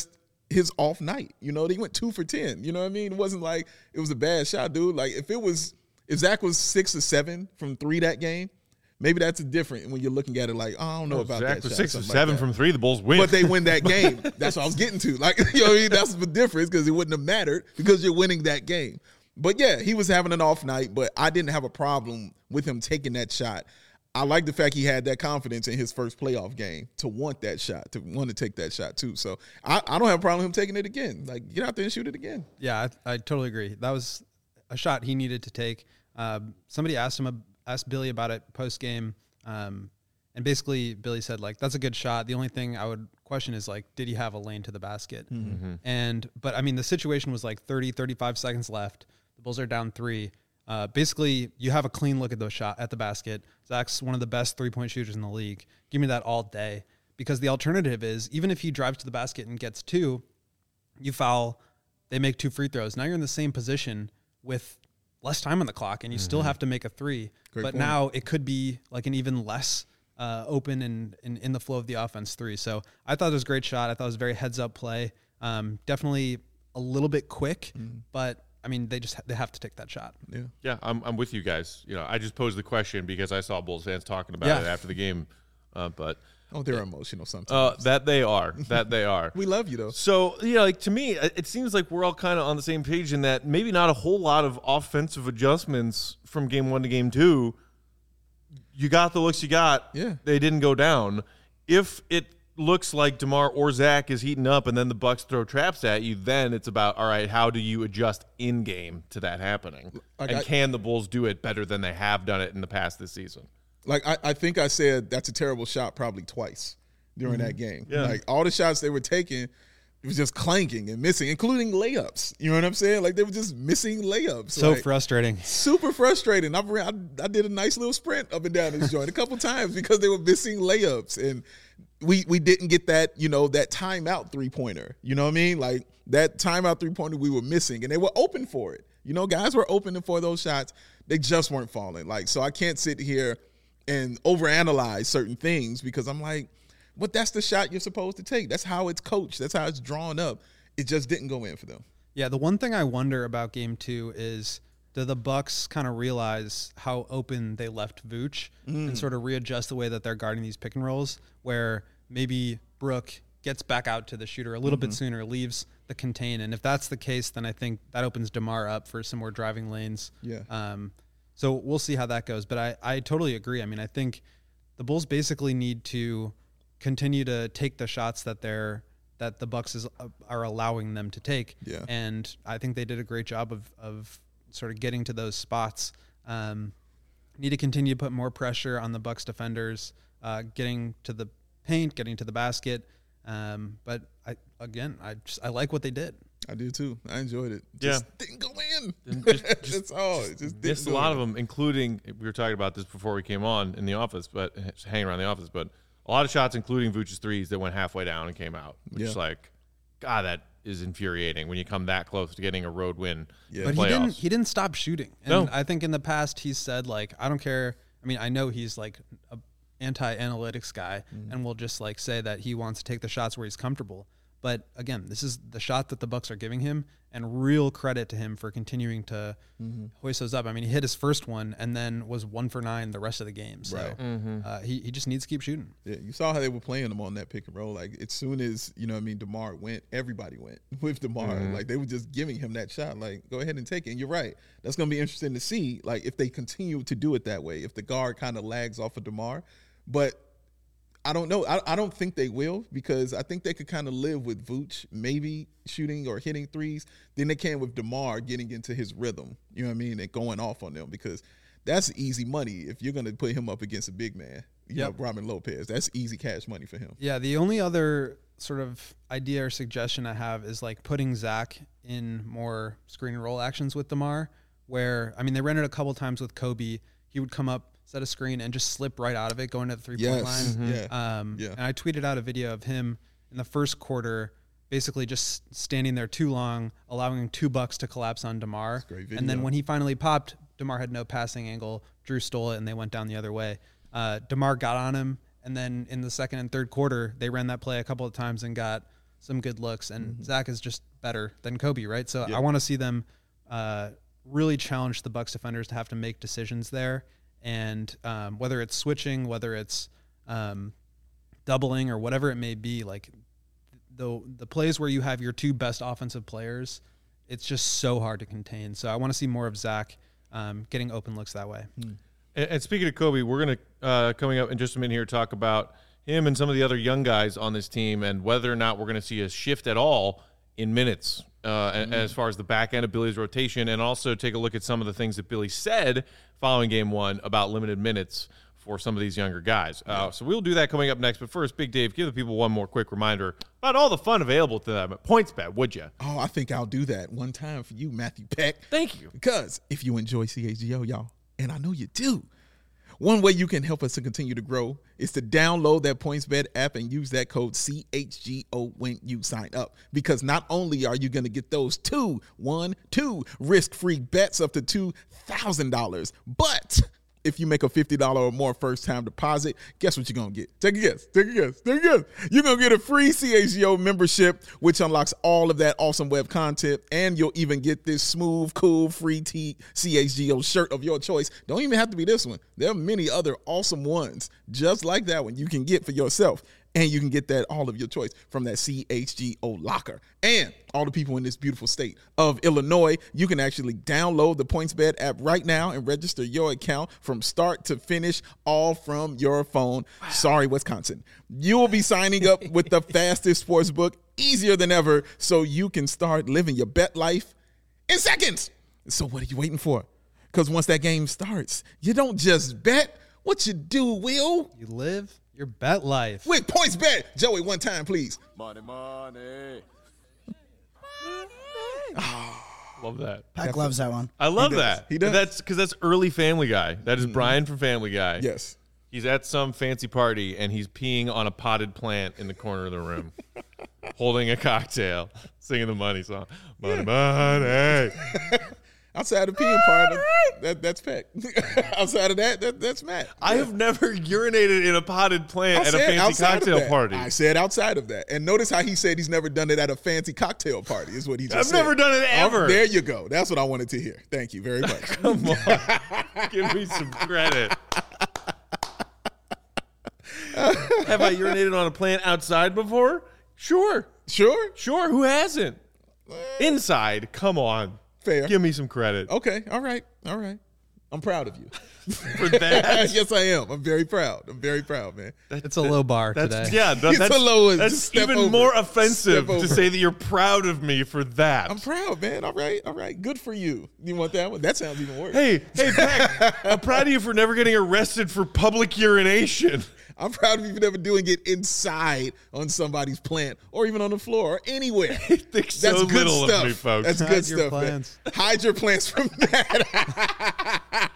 his off night. You know, he went 2 for 10. You know what I mean? It wasn't like it was a bad shot, dude. Like if Zach was 6 or 7 from 3 that game, maybe that's different when you're looking at it like, oh, I don't know about
Zach
that
was
shot.
6 or 7 from 3. The Bulls win,
but they win that game. That's what I was getting to. Like, you know what I mean? That's the difference because it wouldn't have mattered because you're winning that game. But yeah, he was having an off night, but I didn't have a problem with him taking that shot. I like the fact he had that confidence in his first playoff game to want that shot, to want to take that shot too. So I don't have a problem with him taking it again. Like, get out there and shoot it again.
Yeah, I totally agree. That was a shot he needed to take. Somebody asked Billy about it post game, and basically Billy said like, that's a good shot. The only thing I would question is like, did he have a lane to the basket? But I mean, the situation was like 35 seconds left. The Bulls are down 3. Basically, you have a clean look at the shot at the basket. Zach's one of the best 3-point shooters in the league. Give me that all day, because the alternative is even if he drives to the basket and gets 2, you foul, they make 2 free throws. Now you're in the same position with less time on the clock, and you still have to make a 3. Great but point. Now it could be like an even less open and in the flow of the offense 3. So I thought it was a great shot. I thought it was a very heads up play. Definitely a little bit quick, but I mean, they have to take that shot.
Yeah, I'm with you guys. You know, I just posed the question because I saw Bulls fans talking about it after the game. But
they're emotional sometimes.
That they are.
We love you though.
So like to me, it seems like we're all kind of on the same page in that maybe not a whole lot of offensive adjustments from game 1 to game 2. You got the looks you got.
Yeah,
they didn't go down. If it looks like DeMar or Zach is heating up and then the Bucks throw traps at you, then it's about, all right, how do you adjust in game to that happening? And can the Bulls do it better than they have done it in the past this season?
Like I think I said that's a terrible shot probably twice during that game.
Yeah.
Like all the shots they were taking, it was just clanking and missing, including layups. You know what I'm saying? Like they were just missing layups.
So
like,
frustrating. Super
frustrating. I did a nice little sprint up and down this joint a couple times because they were missing layups. And we didn't get that, that timeout 3-pointer. You know what I mean? Like that timeout 3-pointer we were missing, and they were open for it. Guys were open for those shots. They just weren't falling. Like, so I can't sit here and overanalyze certain things because I'm like, but that's the shot you're supposed to take. That's how it's coached. That's how it's drawn up. It just didn't go in for them.
Yeah, the one thing I wonder about game 2 is, do the Bucks kind of realize how open they left Vooch and sort of readjust the way that they're guarding these pick and rolls, where maybe Brook gets back out to the shooter a little bit sooner, leaves the contain. And if that's the case, then I think that opens DeMar up for some more driving lanes.
Yeah.
So we'll see how that goes. But I totally agree. I mean, I think the Bulls basically need to continue to take the shots that the Bucks are allowing them to take.
Yeah.
And I think they did a great job of sort of getting to those spots. Need to continue to put more pressure on the Bucks defenders, getting to the paint, getting to the basket. But I like what they did.
I do too. I enjoyed it.
Just
didn't go in.
That's
all. It just
missed a lot of them, including, we were talking about this before we came on in the office, but hanging around the office, but a lot of shots, including Vooch's threes, that went halfway down and came out. Which is like, God, that is infuriating when you come that close to getting a road win.
Yeah.
But he didn't stop shooting. And
no.
I think in the past he's said, like, I don't care. I mean, I know he's like a anti-analytics guy and will just like say that he wants to take the shots where he's comfortable. But again, this is the shot that the Bucks are giving him, and real credit to him for continuing to hoist those up. I mean, he hit his first one and then was 1 for 9 the rest of the game. So he just needs to keep shooting.
Yeah, you saw how they were playing him on that pick and roll. Like as soon as DeMar went, everybody went with DeMar. Like they were just giving him that shot. Like go ahead and take it. And you're right. That's going to be interesting to see. Like if they continue to do it that way, if the guard kind of lags off of DeMar, but. I don't know. I don't think they will, because I think they could kind of live with Vooch maybe shooting or hitting threes. Then they can with DeMar getting into his rhythm, you know what I mean, and going off on them, because that's easy money if you're going to put him up against a big man. You know, Robin Lopez. That's easy cash money for him.
Yeah, the only other sort of idea or suggestion I have is like putting Zach in more screen and roll actions with DeMar, where, I mean, they ran it a couple times with Kobe. He would come up, set a screen, and just slip right out of it, going to the three-point line. And I tweeted out a video of him in the first quarter, basically just standing there too long, allowing 2 Bucks to collapse on DeMar. And then when he finally popped, DeMar had no passing angle. Drew stole it, and they went down the other way. DeMar got on him, and then in the second and third quarter, they ran that play a couple of times and got some good looks, and Zach is just better than Kobe, right? So I want to see them really challenge the Bucks defenders to have to make decisions there, and whether it's switching, whether it's doubling, or whatever it may be, like the plays where you have your two best offensive players, it's just so hard to contain. So I want to see more of Zach getting open looks that way.
And speaking of Kobe, we're going to, coming up in just a minute here, talk about him and some of the other young guys on this team and whether or not we're going to see a shift at all in minutes as far as the back end of Billy's rotation, and also take a look at some of the things that Billy said following game one about limited minutes for some of these younger guys. So we'll do that coming up next. But first, Big Dave, give the people one more quick reminder about all the fun available to them at PointsBet, would you?
Oh, I think I'll do that one time for you, Matthew Peck.
Thank you.
Because if you enjoy CHGO, y'all, and I know you do, one way you can help us to continue to grow is to download that PointsBet app and use that code CHGO when you sign up. Because not only are you going to get those two risk-free bets up to $2,000, but if you make a $50 or more first-time deposit, guess what you're going to get? Take a guess. You're going to get a free CHGO membership, which unlocks all of that awesome web content, and you'll even get this smooth, cool, free CHGO shirt of your choice. Don't even have to be this one. There are many other awesome ones just like that one you can get for yourself. And you can get that all of your choice from that CHGO locker. And all the people in this beautiful state of Illinois, you can actually download the PointsBet app right now and register your account from start to finish, all from your phone. Wow. Sorry, Wisconsin. You will be signing up with the fastest sports book, easier than ever, so you can start living your bet life in seconds. So what are you waiting for? Because once that game starts, you don't just bet. What you do, Will?
You live your bet life
with PointsBet. Joey, one time, please.
Money.
Love that.
Pack loves that one.
I love that.
He does.
That's because that's early Family Guy. That is Brian from Family Guy.
Yes.
He's at some fancy party and he's peeing on a potted plant in the corner of the room, holding a cocktail, singing the money song. Money.
Outside of peeing part, that's Peck. Outside of that's Matt.
I have never urinated in a potted plant at a fancy cocktail party.
I said outside of that. And notice how he said he's never done it at a fancy cocktail party is what he just said.
I've never done it ever.
There you go. That's what I wanted to hear. Thank you very much.
Come on. Give me some credit. Have I urinated on a plant outside before? Sure. Who hasn't? Inside. Come on.
Fair.
Give me some credit.
Okay. All right. I'm proud of you.
For that?
Yes, I am. I'm very proud, man.
It's a low bar today.
Yeah, that's even more offensive to say that you're proud of me for that.
I'm proud, man. All right. Good for you. You want that one? That sounds even worse.
Hey, Peck, I'm proud of you for never getting arrested for public urination.
I'm proud of you for never doing it inside on somebody's plant or even on the floor or anywhere.
That's so good little stuff. Of me, folks.
That's good stuff, man. Hide your plants from that.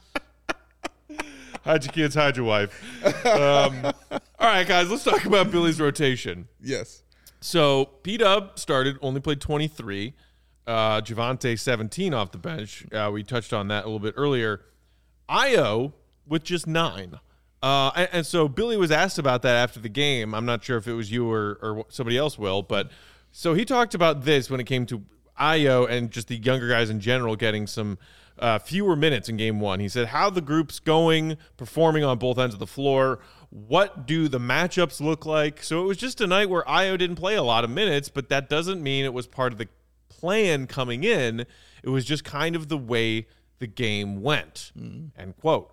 Hide your kids, hide your wife. All right, guys, let's talk about Billy's rotation.
Yes.
So P-Dub started, only played 23. Javonte 17 off the bench. We touched on that a little bit earlier. Ayo with just 9. And so Billy was asked about that after the game. I'm not sure if it was you or somebody else, Will, but so he talked about this when it came to Ayo and just the younger guys in general getting some fewer minutes in game one. He said how the group's performing on both ends of the floor. What do the matchups look like? So it was just a night where Ayo didn't play a lot of minutes, but that doesn't mean it was part of the plan coming in. It was just kind of the way the game went, end quote.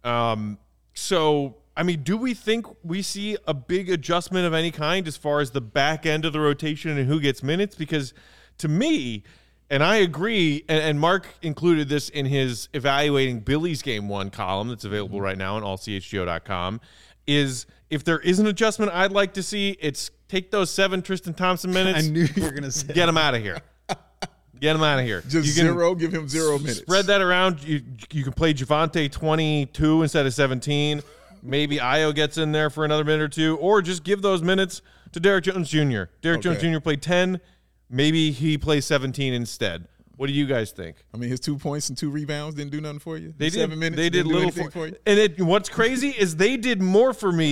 So, I mean, do we think we see a big adjustment of any kind as far as the back end of the rotation and who gets minutes? Because to me, and I agree, and Mark included this in his evaluating Billy's game one column that's available right now on allchgo.com, is if there is an adjustment I'd like to see, it's take those 7 Tristan Thompson minutes.
I knew you were going to say
get them out of here. Get him out of here.
Just give him 0 minutes.
Spread that around. You can play Javonte 22 instead of 17. Maybe Ayo gets in there for another minute or two, or just give those minutes to Derrick Jones Jr. Derrick Jones Jr. played 10. Maybe he plays 17 instead. What do you guys think?
I mean, his 2 points and 2 rebounds didn't do nothing for you.
They did
7 minutes.
They did little for you. And what's crazy is they did more for me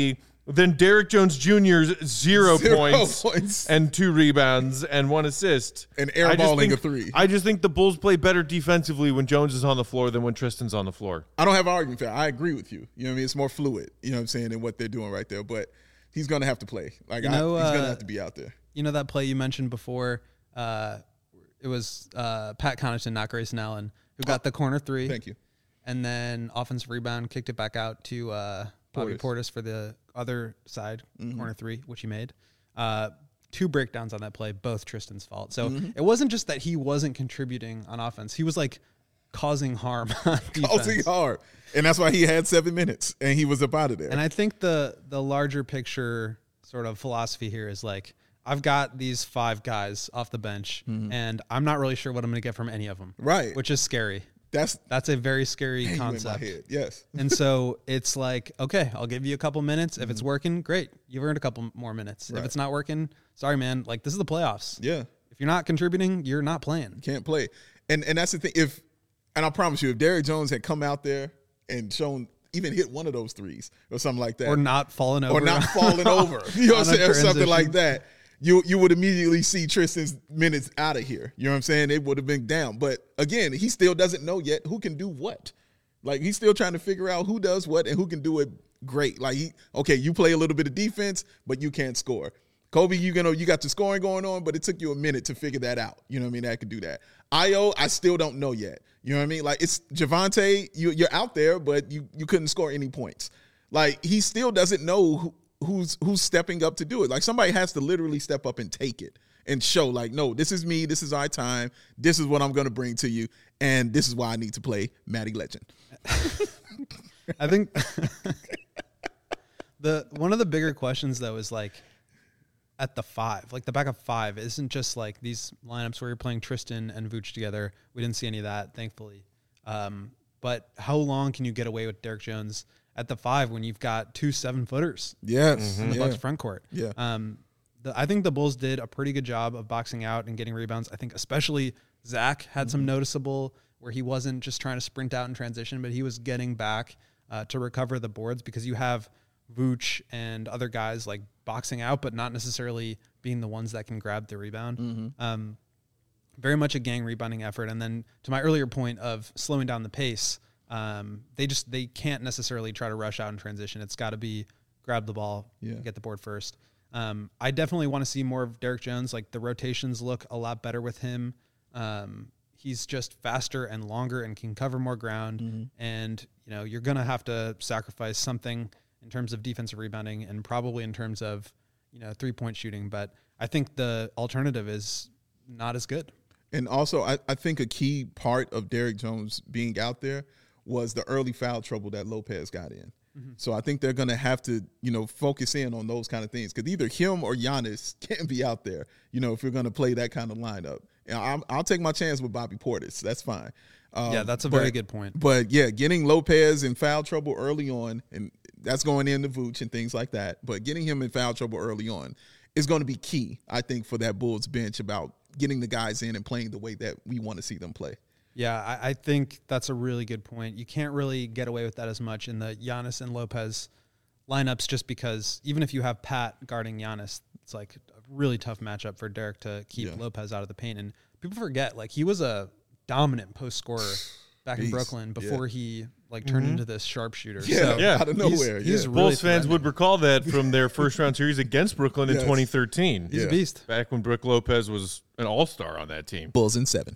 Then Derek Jones Jr.'s 0
points.
and 2 rebounds and 1 assist.
And airballing a 3.
I just think the Bulls play better defensively when Jones is on the floor than when Tristan's on the floor.
I don't have an argument for that. I agree with you. You know what I mean? It's more fluid, you know what I'm saying, than what they're doing right there. But he's going to have to play. Like, he's going to have to be out there.
You know that play you mentioned before? It was Pat Connaughton, not Grayson Allen, who got the corner 3.
Thank you.
And then offensive rebound, kicked it back out to Bobby Portis for the other side, corner 3, which he made. 2 breakdowns on that play, both Tristan's fault. So it wasn't just that he wasn't contributing on offense. He was like causing harm on defense.
Causing harm. And that's why he had 7 minutes and he was up out of there.
And I think the larger picture sort of philosophy here is like, I've got these 5 guys off the bench and I'm not really sure what I'm going to get from any of them.
Right.
Which is scary.
That's
a very scary concept.
Yes.
And so it's like, okay, I'll give you a couple minutes. If it's working, great. You've earned a couple more minutes.
Right.
If it's not working, sorry, man. Like, this is the playoffs.
Yeah.
If you're not contributing, you're not playing.
Can't play. And that's the thing. And I promise you, if Derrick Jones had come out there and even hit one of those threes or something like that.
Or not falling over.
You know what I'm saying? Or something like that. You would immediately see Tristan's minutes out of here. You know what I'm saying? It would have been down. But again, he still doesn't know yet who can do what. Like, he's still trying to figure out who does what and who can do it great. Like, you play a little bit of defense, but you can't score. Kobe, you got the scoring going on, but it took you a minute to figure that out. You know what I mean? That could do that. Io, I still don't know yet. You know what I mean? Like, it's Javonte, you're out there, but you couldn't score any points. Like, he still doesn't know who's stepping up to do it. Like, somebody has to literally step up and take it and show, like, no, this is me, this is our time, this is what I'm going to bring to you, and this is why I need to play Matty Legend.
I think one of the bigger questions, though, is like at the 5, like the back of 5 isn't just like these lineups where you're playing Tristan and Vooch together. We didn't see any of that, thankfully. But how long can you get away with Derrick Jones at the 5 when you've got 2 7-footers?
Yes.
In the Bucks front court.
Yeah.
I think the Bulls did a pretty good job of boxing out and getting rebounds. I think especially Zach had some noticeable where he wasn't just trying to sprint out in transition, but he was getting back to recover the boards, because you have Vooch and other guys like boxing out, but not necessarily being the ones that can grab the rebound. Very much a gang rebounding effort. And then to my earlier point of slowing down the pace, they can't necessarily try to rush out in transition. It's got to be grab the ball, get the board first. I definitely want to see more of Derrick Jones. Like, the rotations look a lot better with him. He's just faster and longer and can cover more ground. And, you're going to have to sacrifice something in terms of defensive rebounding and probably in terms of, 3-point shooting. But I think the alternative is not as good.
And also, I think a key part of Derrick Jones being out there was the early foul trouble that Lopez got in. So I think they're going to have to, focus in on those kind of things, because either him or Giannis can't be out there, if you're going to play that kind of lineup. And I'll take my chance with Bobby Portis. That's fine.
That's a very good point.
But, yeah, getting Lopez in foul trouble early on, and that's going into Vooch and things like that, but getting him in foul trouble early on is going to be key, I think, for that Bulls bench about getting the guys in and playing the way that we want to see them play.
Yeah, I think that's a really good point. You can't really get away with that as much in the Giannis and Lopez lineups, just because even if you have Pat guarding Giannis, it's like a really tough matchup for Derrick to keep Lopez out of the paint. And people forget, like, he was a dominant post scorer back in Brooklyn before he turned into this sharpshooter.
Out of nowhere.
He's really
Bulls fans would recall that from their first round series against Brooklyn in 2013.
He's a beast.
Back when Brook Lopez was an all-star on that team.
Bulls in 7.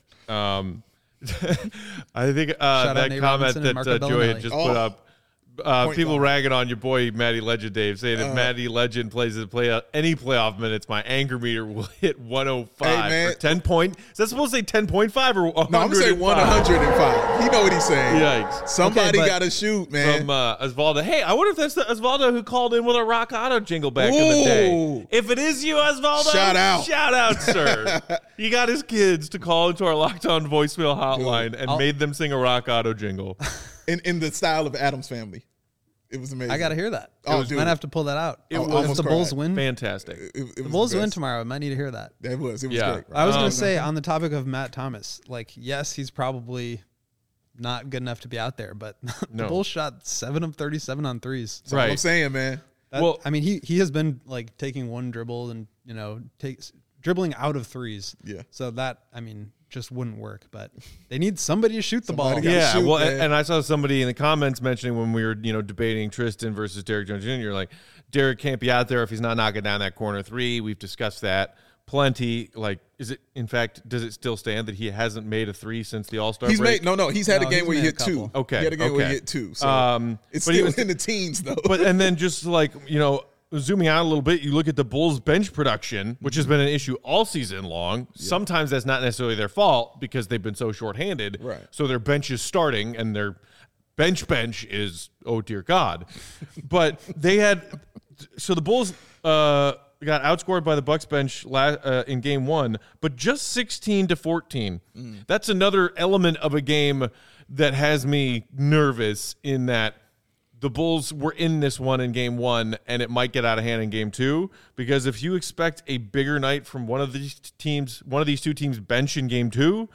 I think that
Nate
comment
Robinson and
that
Marco
Joey had
Bellinelli.
just put up, people ragging on your boy Matty Legend, Dave, saying if Matty Legend plays any playoff minutes, my anger meter will hit 105 for 10 point. Is that supposed to say 10.5 or 105?
No, I'm saying 105. You know what he's saying.
Yikes.
Somebody got to shoot, man.
From Osvaldo. Hey, I wonder if that's the Osvaldo who called in with a Rock Auto jingle back in the day. If it is you, Osvaldo,
shout out.
Shout out, sir. He got his kids to call into our Locked On voicemail hotline and made them sing a Rock Auto jingle.
In the style of Addams Family. It was amazing.
I got to hear that.
Dude.
Might have to pull that out.
If
the Bulls win,
Fantastic.
It
the
was
Bulls
the
win
best.
tomorrow, I might need to hear that.
It was great. Right?
I was going to say, on the topic of Matt Thomas, like, yes, he's probably not good enough to be out there, but the Bulls shot 7 of 37 on threes.
That's what I'm saying, man.
Well,
I mean, he has been like taking one dribble and dribbling out of threes.
Yeah.
So that, I mean, just wouldn't work. But they need somebody to shoot the ball.
gotta
Yeah,
shoot,
well,
man.
and I saw somebody in the comments mentioning when we were, debating Tristan versus Derek Jones Jr., like, Derek can't be out there if he's not knocking down that corner three. We've discussed that plenty. Like, does it still stand that he hasn't made a three since the All-Star break?
He's had a
No,
game
he's
where he
made a
hit two.
couple.
Okay,
He had a game where
okay.
he hit two. So it's
but he
still
was-
in the teens, though.
And then just like, zooming out a little bit, you look at the Bulls bench production, which has been an issue all season long. Sometimes that's not necessarily their fault because they've been so shorthanded.
Right.
So their bench is starting and their bench is, oh dear God. But so the Bulls got outscored by the Bucks bench in game one, but just 16-14. That's another element of a game that has me nervous in that the Bulls were in this one in game one, and it might get out of hand in game two, because if you expect a bigger night from one of these two teams bench in game two,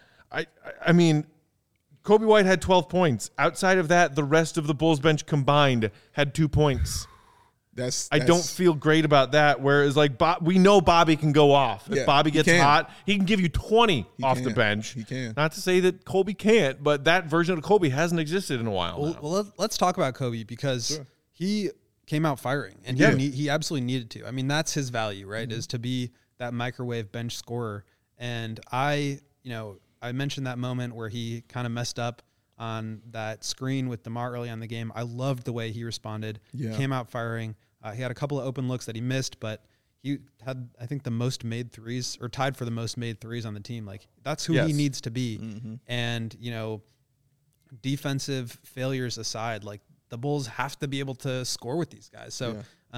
I mean, Kobe White had 12 points. Outside of that, the rest of the Bulls bench combined had 2 points. I don't feel great about that. Whereas, like, we know Bobby can go off.
Yeah,
if Bobby
he
gets
can.
hot, he can give you 20 off the
can.
bench.
He can.
Not to say that Kobe can't, but that version of Kobe hasn't existed in a while now.
Well, let's talk about Kobe because he came out firing and
Yeah.
he absolutely needed to. I mean, that's his value, right? Is to be that microwave bench scorer. And I mentioned that moment where he kind of messed up on that screen with DeMar early on in the game. I loved the way he responded.
Yeah.
Came out firing. He had a couple of open looks that he missed, but he had, I think, the most made threes, or tied for the most made threes on the team. Like, that's who he needs to be. And, defensive failures aside, like, the Bulls have to be able to score with these guys. So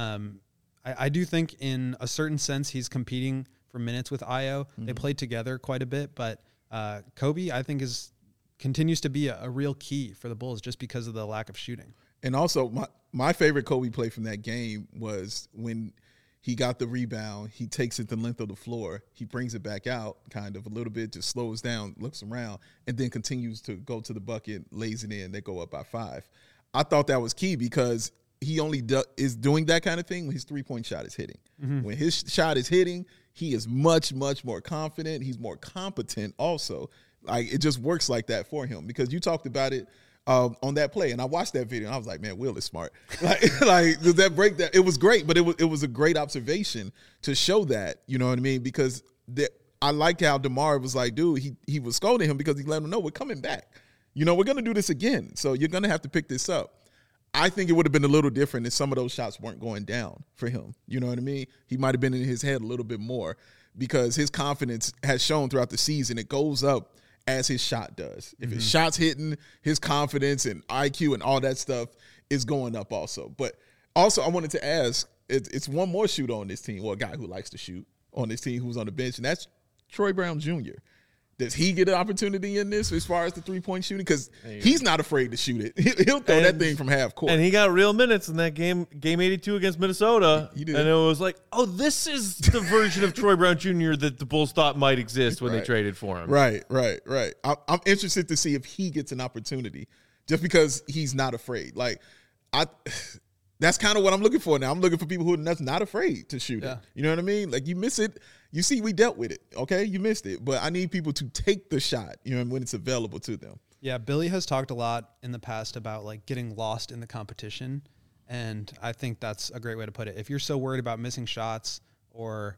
I do think in a certain sense he's competing for minutes with Ayo. They played together quite a bit, but Kobe, I think, continues to be a real key for the Bulls just because of the lack of shooting.
And also, my favorite Kobe play from that game was when he got the rebound, he takes it the length of the floor, he brings it back out kind of a little bit, just slows down, looks around, and then continues to go to the bucket, lays it in, they go up by 5. I thought that was key because he only is doing that kind of thing when his three-point shot is hitting. When his shot is hitting, he is much, much more confident. He's more competent also. Like, it just works like that for him because you talked about it on that play, and I watched that video, and I was like, man, Will is smart. like that break, that it was great, but it was a great observation to show that, you know what I mean? Because I like how DeMar was like, dude, he was scolding him because he let him know we're coming back. We're going to do this again, so you're going to have to pick this up. I think it would have been a little different if some of those shots weren't going down for him. You know what I mean? He might have been in his head a little bit more because his confidence has shown throughout the season. It goes up as his shot does. If his shot's hitting, his confidence and IQ and all that stuff is going up also. But also I wanted to ask, it's one more shooter on this team, or a guy who likes to shoot on this team who's on the bench, and that's Troy Brown Jr. Does he get an opportunity in this as far as the three-point shooting? Because he's not afraid to shoot it. He'll throw that thing from half court.
And he got real minutes in that game 82 against Minnesota.
He did.
And it was like, oh, this is the version of Troy Brown Jr. that the Bulls thought might exist when they traded for him.
Right. I'm interested to see if he gets an opportunity just because he's not afraid. That's kind of what I'm looking for now. I'm looking for people who are not afraid to shoot it. You know what I mean? Like, you miss it. You see, we dealt with it, okay? You missed it. But I need people to take the shot, when it's available to them.
Yeah, Billy has talked a lot in the past about, like, getting lost in the competition, and I think that's a great way to put it. If you're so worried about missing shots or,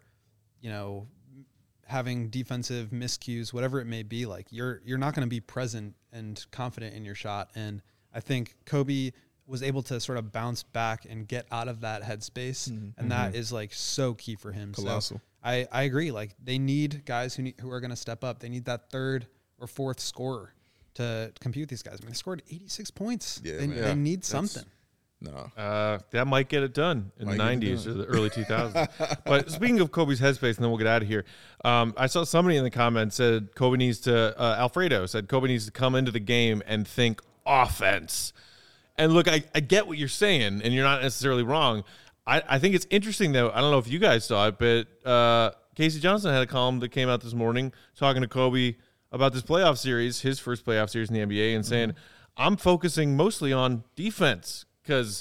having defensive miscues, whatever it may be, like, you're not going to be present and confident in your shot. And I think Kobe was able to sort of bounce back and get out of that headspace, and that is, like, so key for him.
Colossal.
So I agree. Like, they need guys who are going to step up. They need that third or fourth scorer to compete with these guys. I mean, they scored 86 points.
Yeah,
they need something.
No.
That might get it done in the 90s or the early 2000s. But speaking of Kobe's headspace, and then we'll get out of here. I saw somebody in the comments said Kobe needs to, Alfredo said Kobe needs to come into the game and think offense. And look, I get what you're saying, and you're not necessarily wrong. I think it's interesting, though. I don't know if you guys saw it, but Casey Johnson had a column that came out this morning talking to Kobe about this playoff series, his first playoff series in the NBA, and saying, I'm focusing mostly on defense because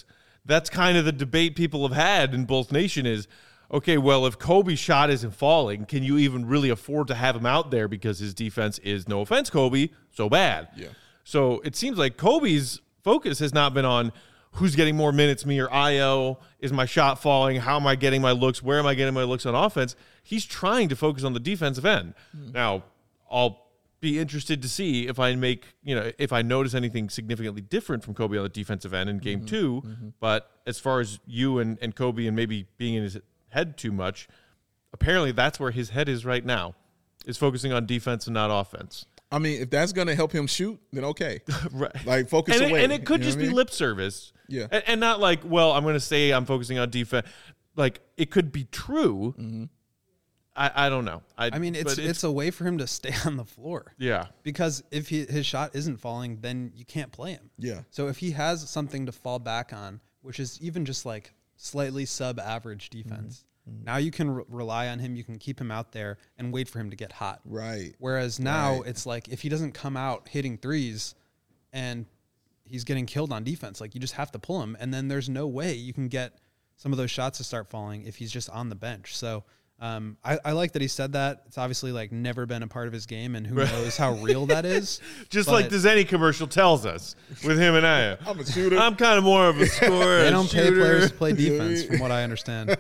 that's kind of the debate people have had in Bulls Nation is, okay, well, if Kobe's shot isn't falling, can you even really afford to have him out there because his defense is, no offense, Kobe, so bad?
Yeah.
So it seems like Kobe's focus has not been on who's getting more minutes, me or Io. Is my shot falling? How am I getting my looks? Where am I getting my looks on offense? He's trying to focus on the defensive end. Now, I'll be interested to see if I notice anything significantly different from Kobe on the defensive end in game 2. But as far as you and Kobe and maybe being in his head too much, apparently that's where his head is right now, is focusing on defense and not offense.
I mean, if that's going to help him shoot, then okay.
Right.
Like, focus
and
away.
And it could just be lip service.
Yeah.
And not like, well, I'm going to say I'm focusing on defense. Like, it could be true. I don't know.
I mean, it's a way for him to stay on the floor.
Yeah.
Because if his shot isn't falling, then you can't play him.
Yeah.
So if he has something to fall back on, which is even just like slightly sub-average defense, now you can rely on him. You can keep him out there and wait for him to get hot.
Right.
Whereas now it's like if he doesn't come out hitting threes and he's getting killed on defense, like you just have to pull him. And then there's no way you can get some of those shots to start falling if he's just on the bench. So I like that he said that. It's obviously like never been a part of his game, and who knows how real that is.
Just like the Zenny commercial tells us with him and I.
I'm a shooter.
I'm kind of more of a scorer.
They don't pay players to play defense, from what I understand.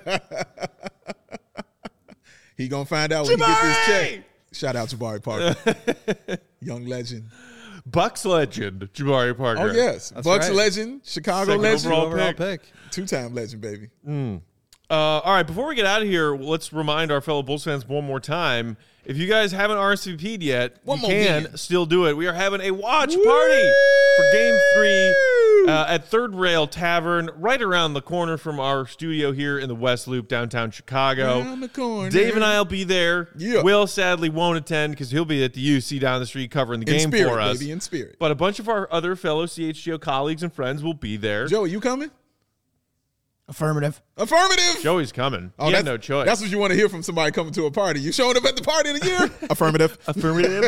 He gonna find out when he gets his check. Shout out Jabari Parker, young legend.
Bucks legend, Jabari Parker.
Oh yes,
That's
Bucks
right.
legend, Chicago
Second
legend,
overall
pick.
2-time legend, baby.
All right, before we get out of here, let's remind our fellow Bulls fans one more time. If you guys haven't RSVP'd yet, you can still do it. We are having a watch party for Game 3 at Third Rail Tavern, right around the corner from our studio here in the West Loop, downtown Chicago.
Around the corner.
Dave and I will be there.
Yeah.
Will sadly won't attend because he'll be at the UC down the street covering the game
spirit,
for us.
baby, in spirit.
But a bunch of our other fellow CHGO colleagues and friends will be there.
Joey, you coming?
Affirmative.
Affirmative.
Joey's coming.
Oh,
he had no choice.
That's what you want to hear from somebody coming to a party. You showing up at the party of the year? Affirmative.
Affirmative.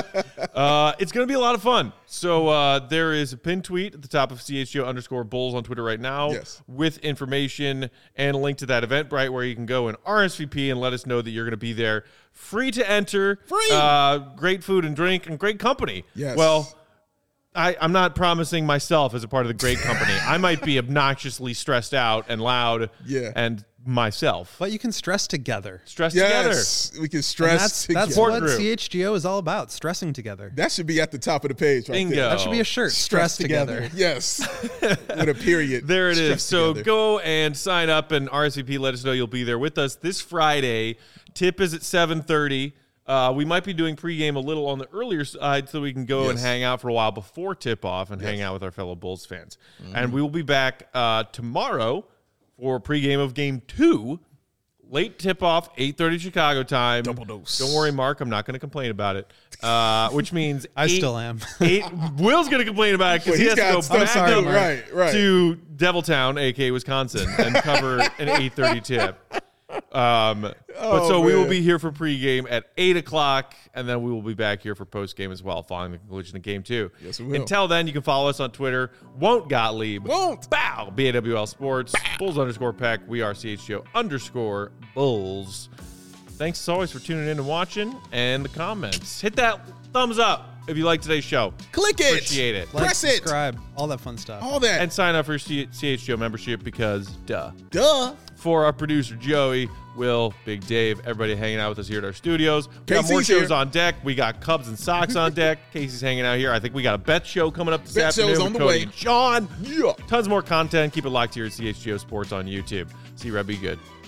It's going to be a lot of fun. So there is a pinned tweet at the top of CHGO_Bulls on Twitter right now with information and a link to that Eventbrite where you can go and RSVP and let us know that you're going to be there. Free to enter.
Free.
Great food and drink and great company.
Yes.
Well, I'm not promising myself as a part of the great company. I might be obnoxiously stressed out and loud and myself.
But you can stress together.
Stress together.
Yes, we can stress together.
That's what CHGO is all about, stressing together.
That should be at the top of the page right
Bingo.
there.
That should be a shirt. Stress together.
Yes. With a period.
There it is. So
together.
go and sign up and RSVP. Let us know you'll be there with us this Friday. Tip is at 7:30. We might be doing pregame a little on the earlier side so we can go and hang out for a while before tip-off and hang out with our fellow Bulls fans. And we will be back tomorrow for pregame of Game 2. Late tip-off, 8:30 Chicago time.
Double dose.
Don't worry, Mark. I'm not going to complain about it. Which means
I still am.
Will's going to complain about it because he has to go back up to Deviltown, a.k.a. Wisconsin, and cover an 8:30 tip. We will be here for pregame at 8 o'clock, and then we will be back here for postgame as well, following the conclusion of Game 2.
Yes, we will.
Until then, you can follow us on Twitter. Won't Gottlieb.
Won't.
Bow. BAWL Sports. Bow. Bulls_Peck. We are CHGO_Bulls. Thanks as always for tuning in and watching, and the comments. Hit that thumbs up if you like today's show.
Click it.
Appreciate it.
Like,
Press it.
subscribe, all that fun stuff.
All that.
And sign up for your CHGO membership because duh.
Duh.
For our producer, Joey, Will, Big Dave, everybody hanging out with us here at our studios. We got more
Casey's
shows
here.
on deck. We got Cubs and Sox on deck. Casey's hanging out here. I think we got a bet show coming up this afternoon.
show's on
with
the
Cody
way.
and Sean.
Yeah.
Tons more content. Keep it locked here at CHGO Sports on YouTube. See you, Red. Be good.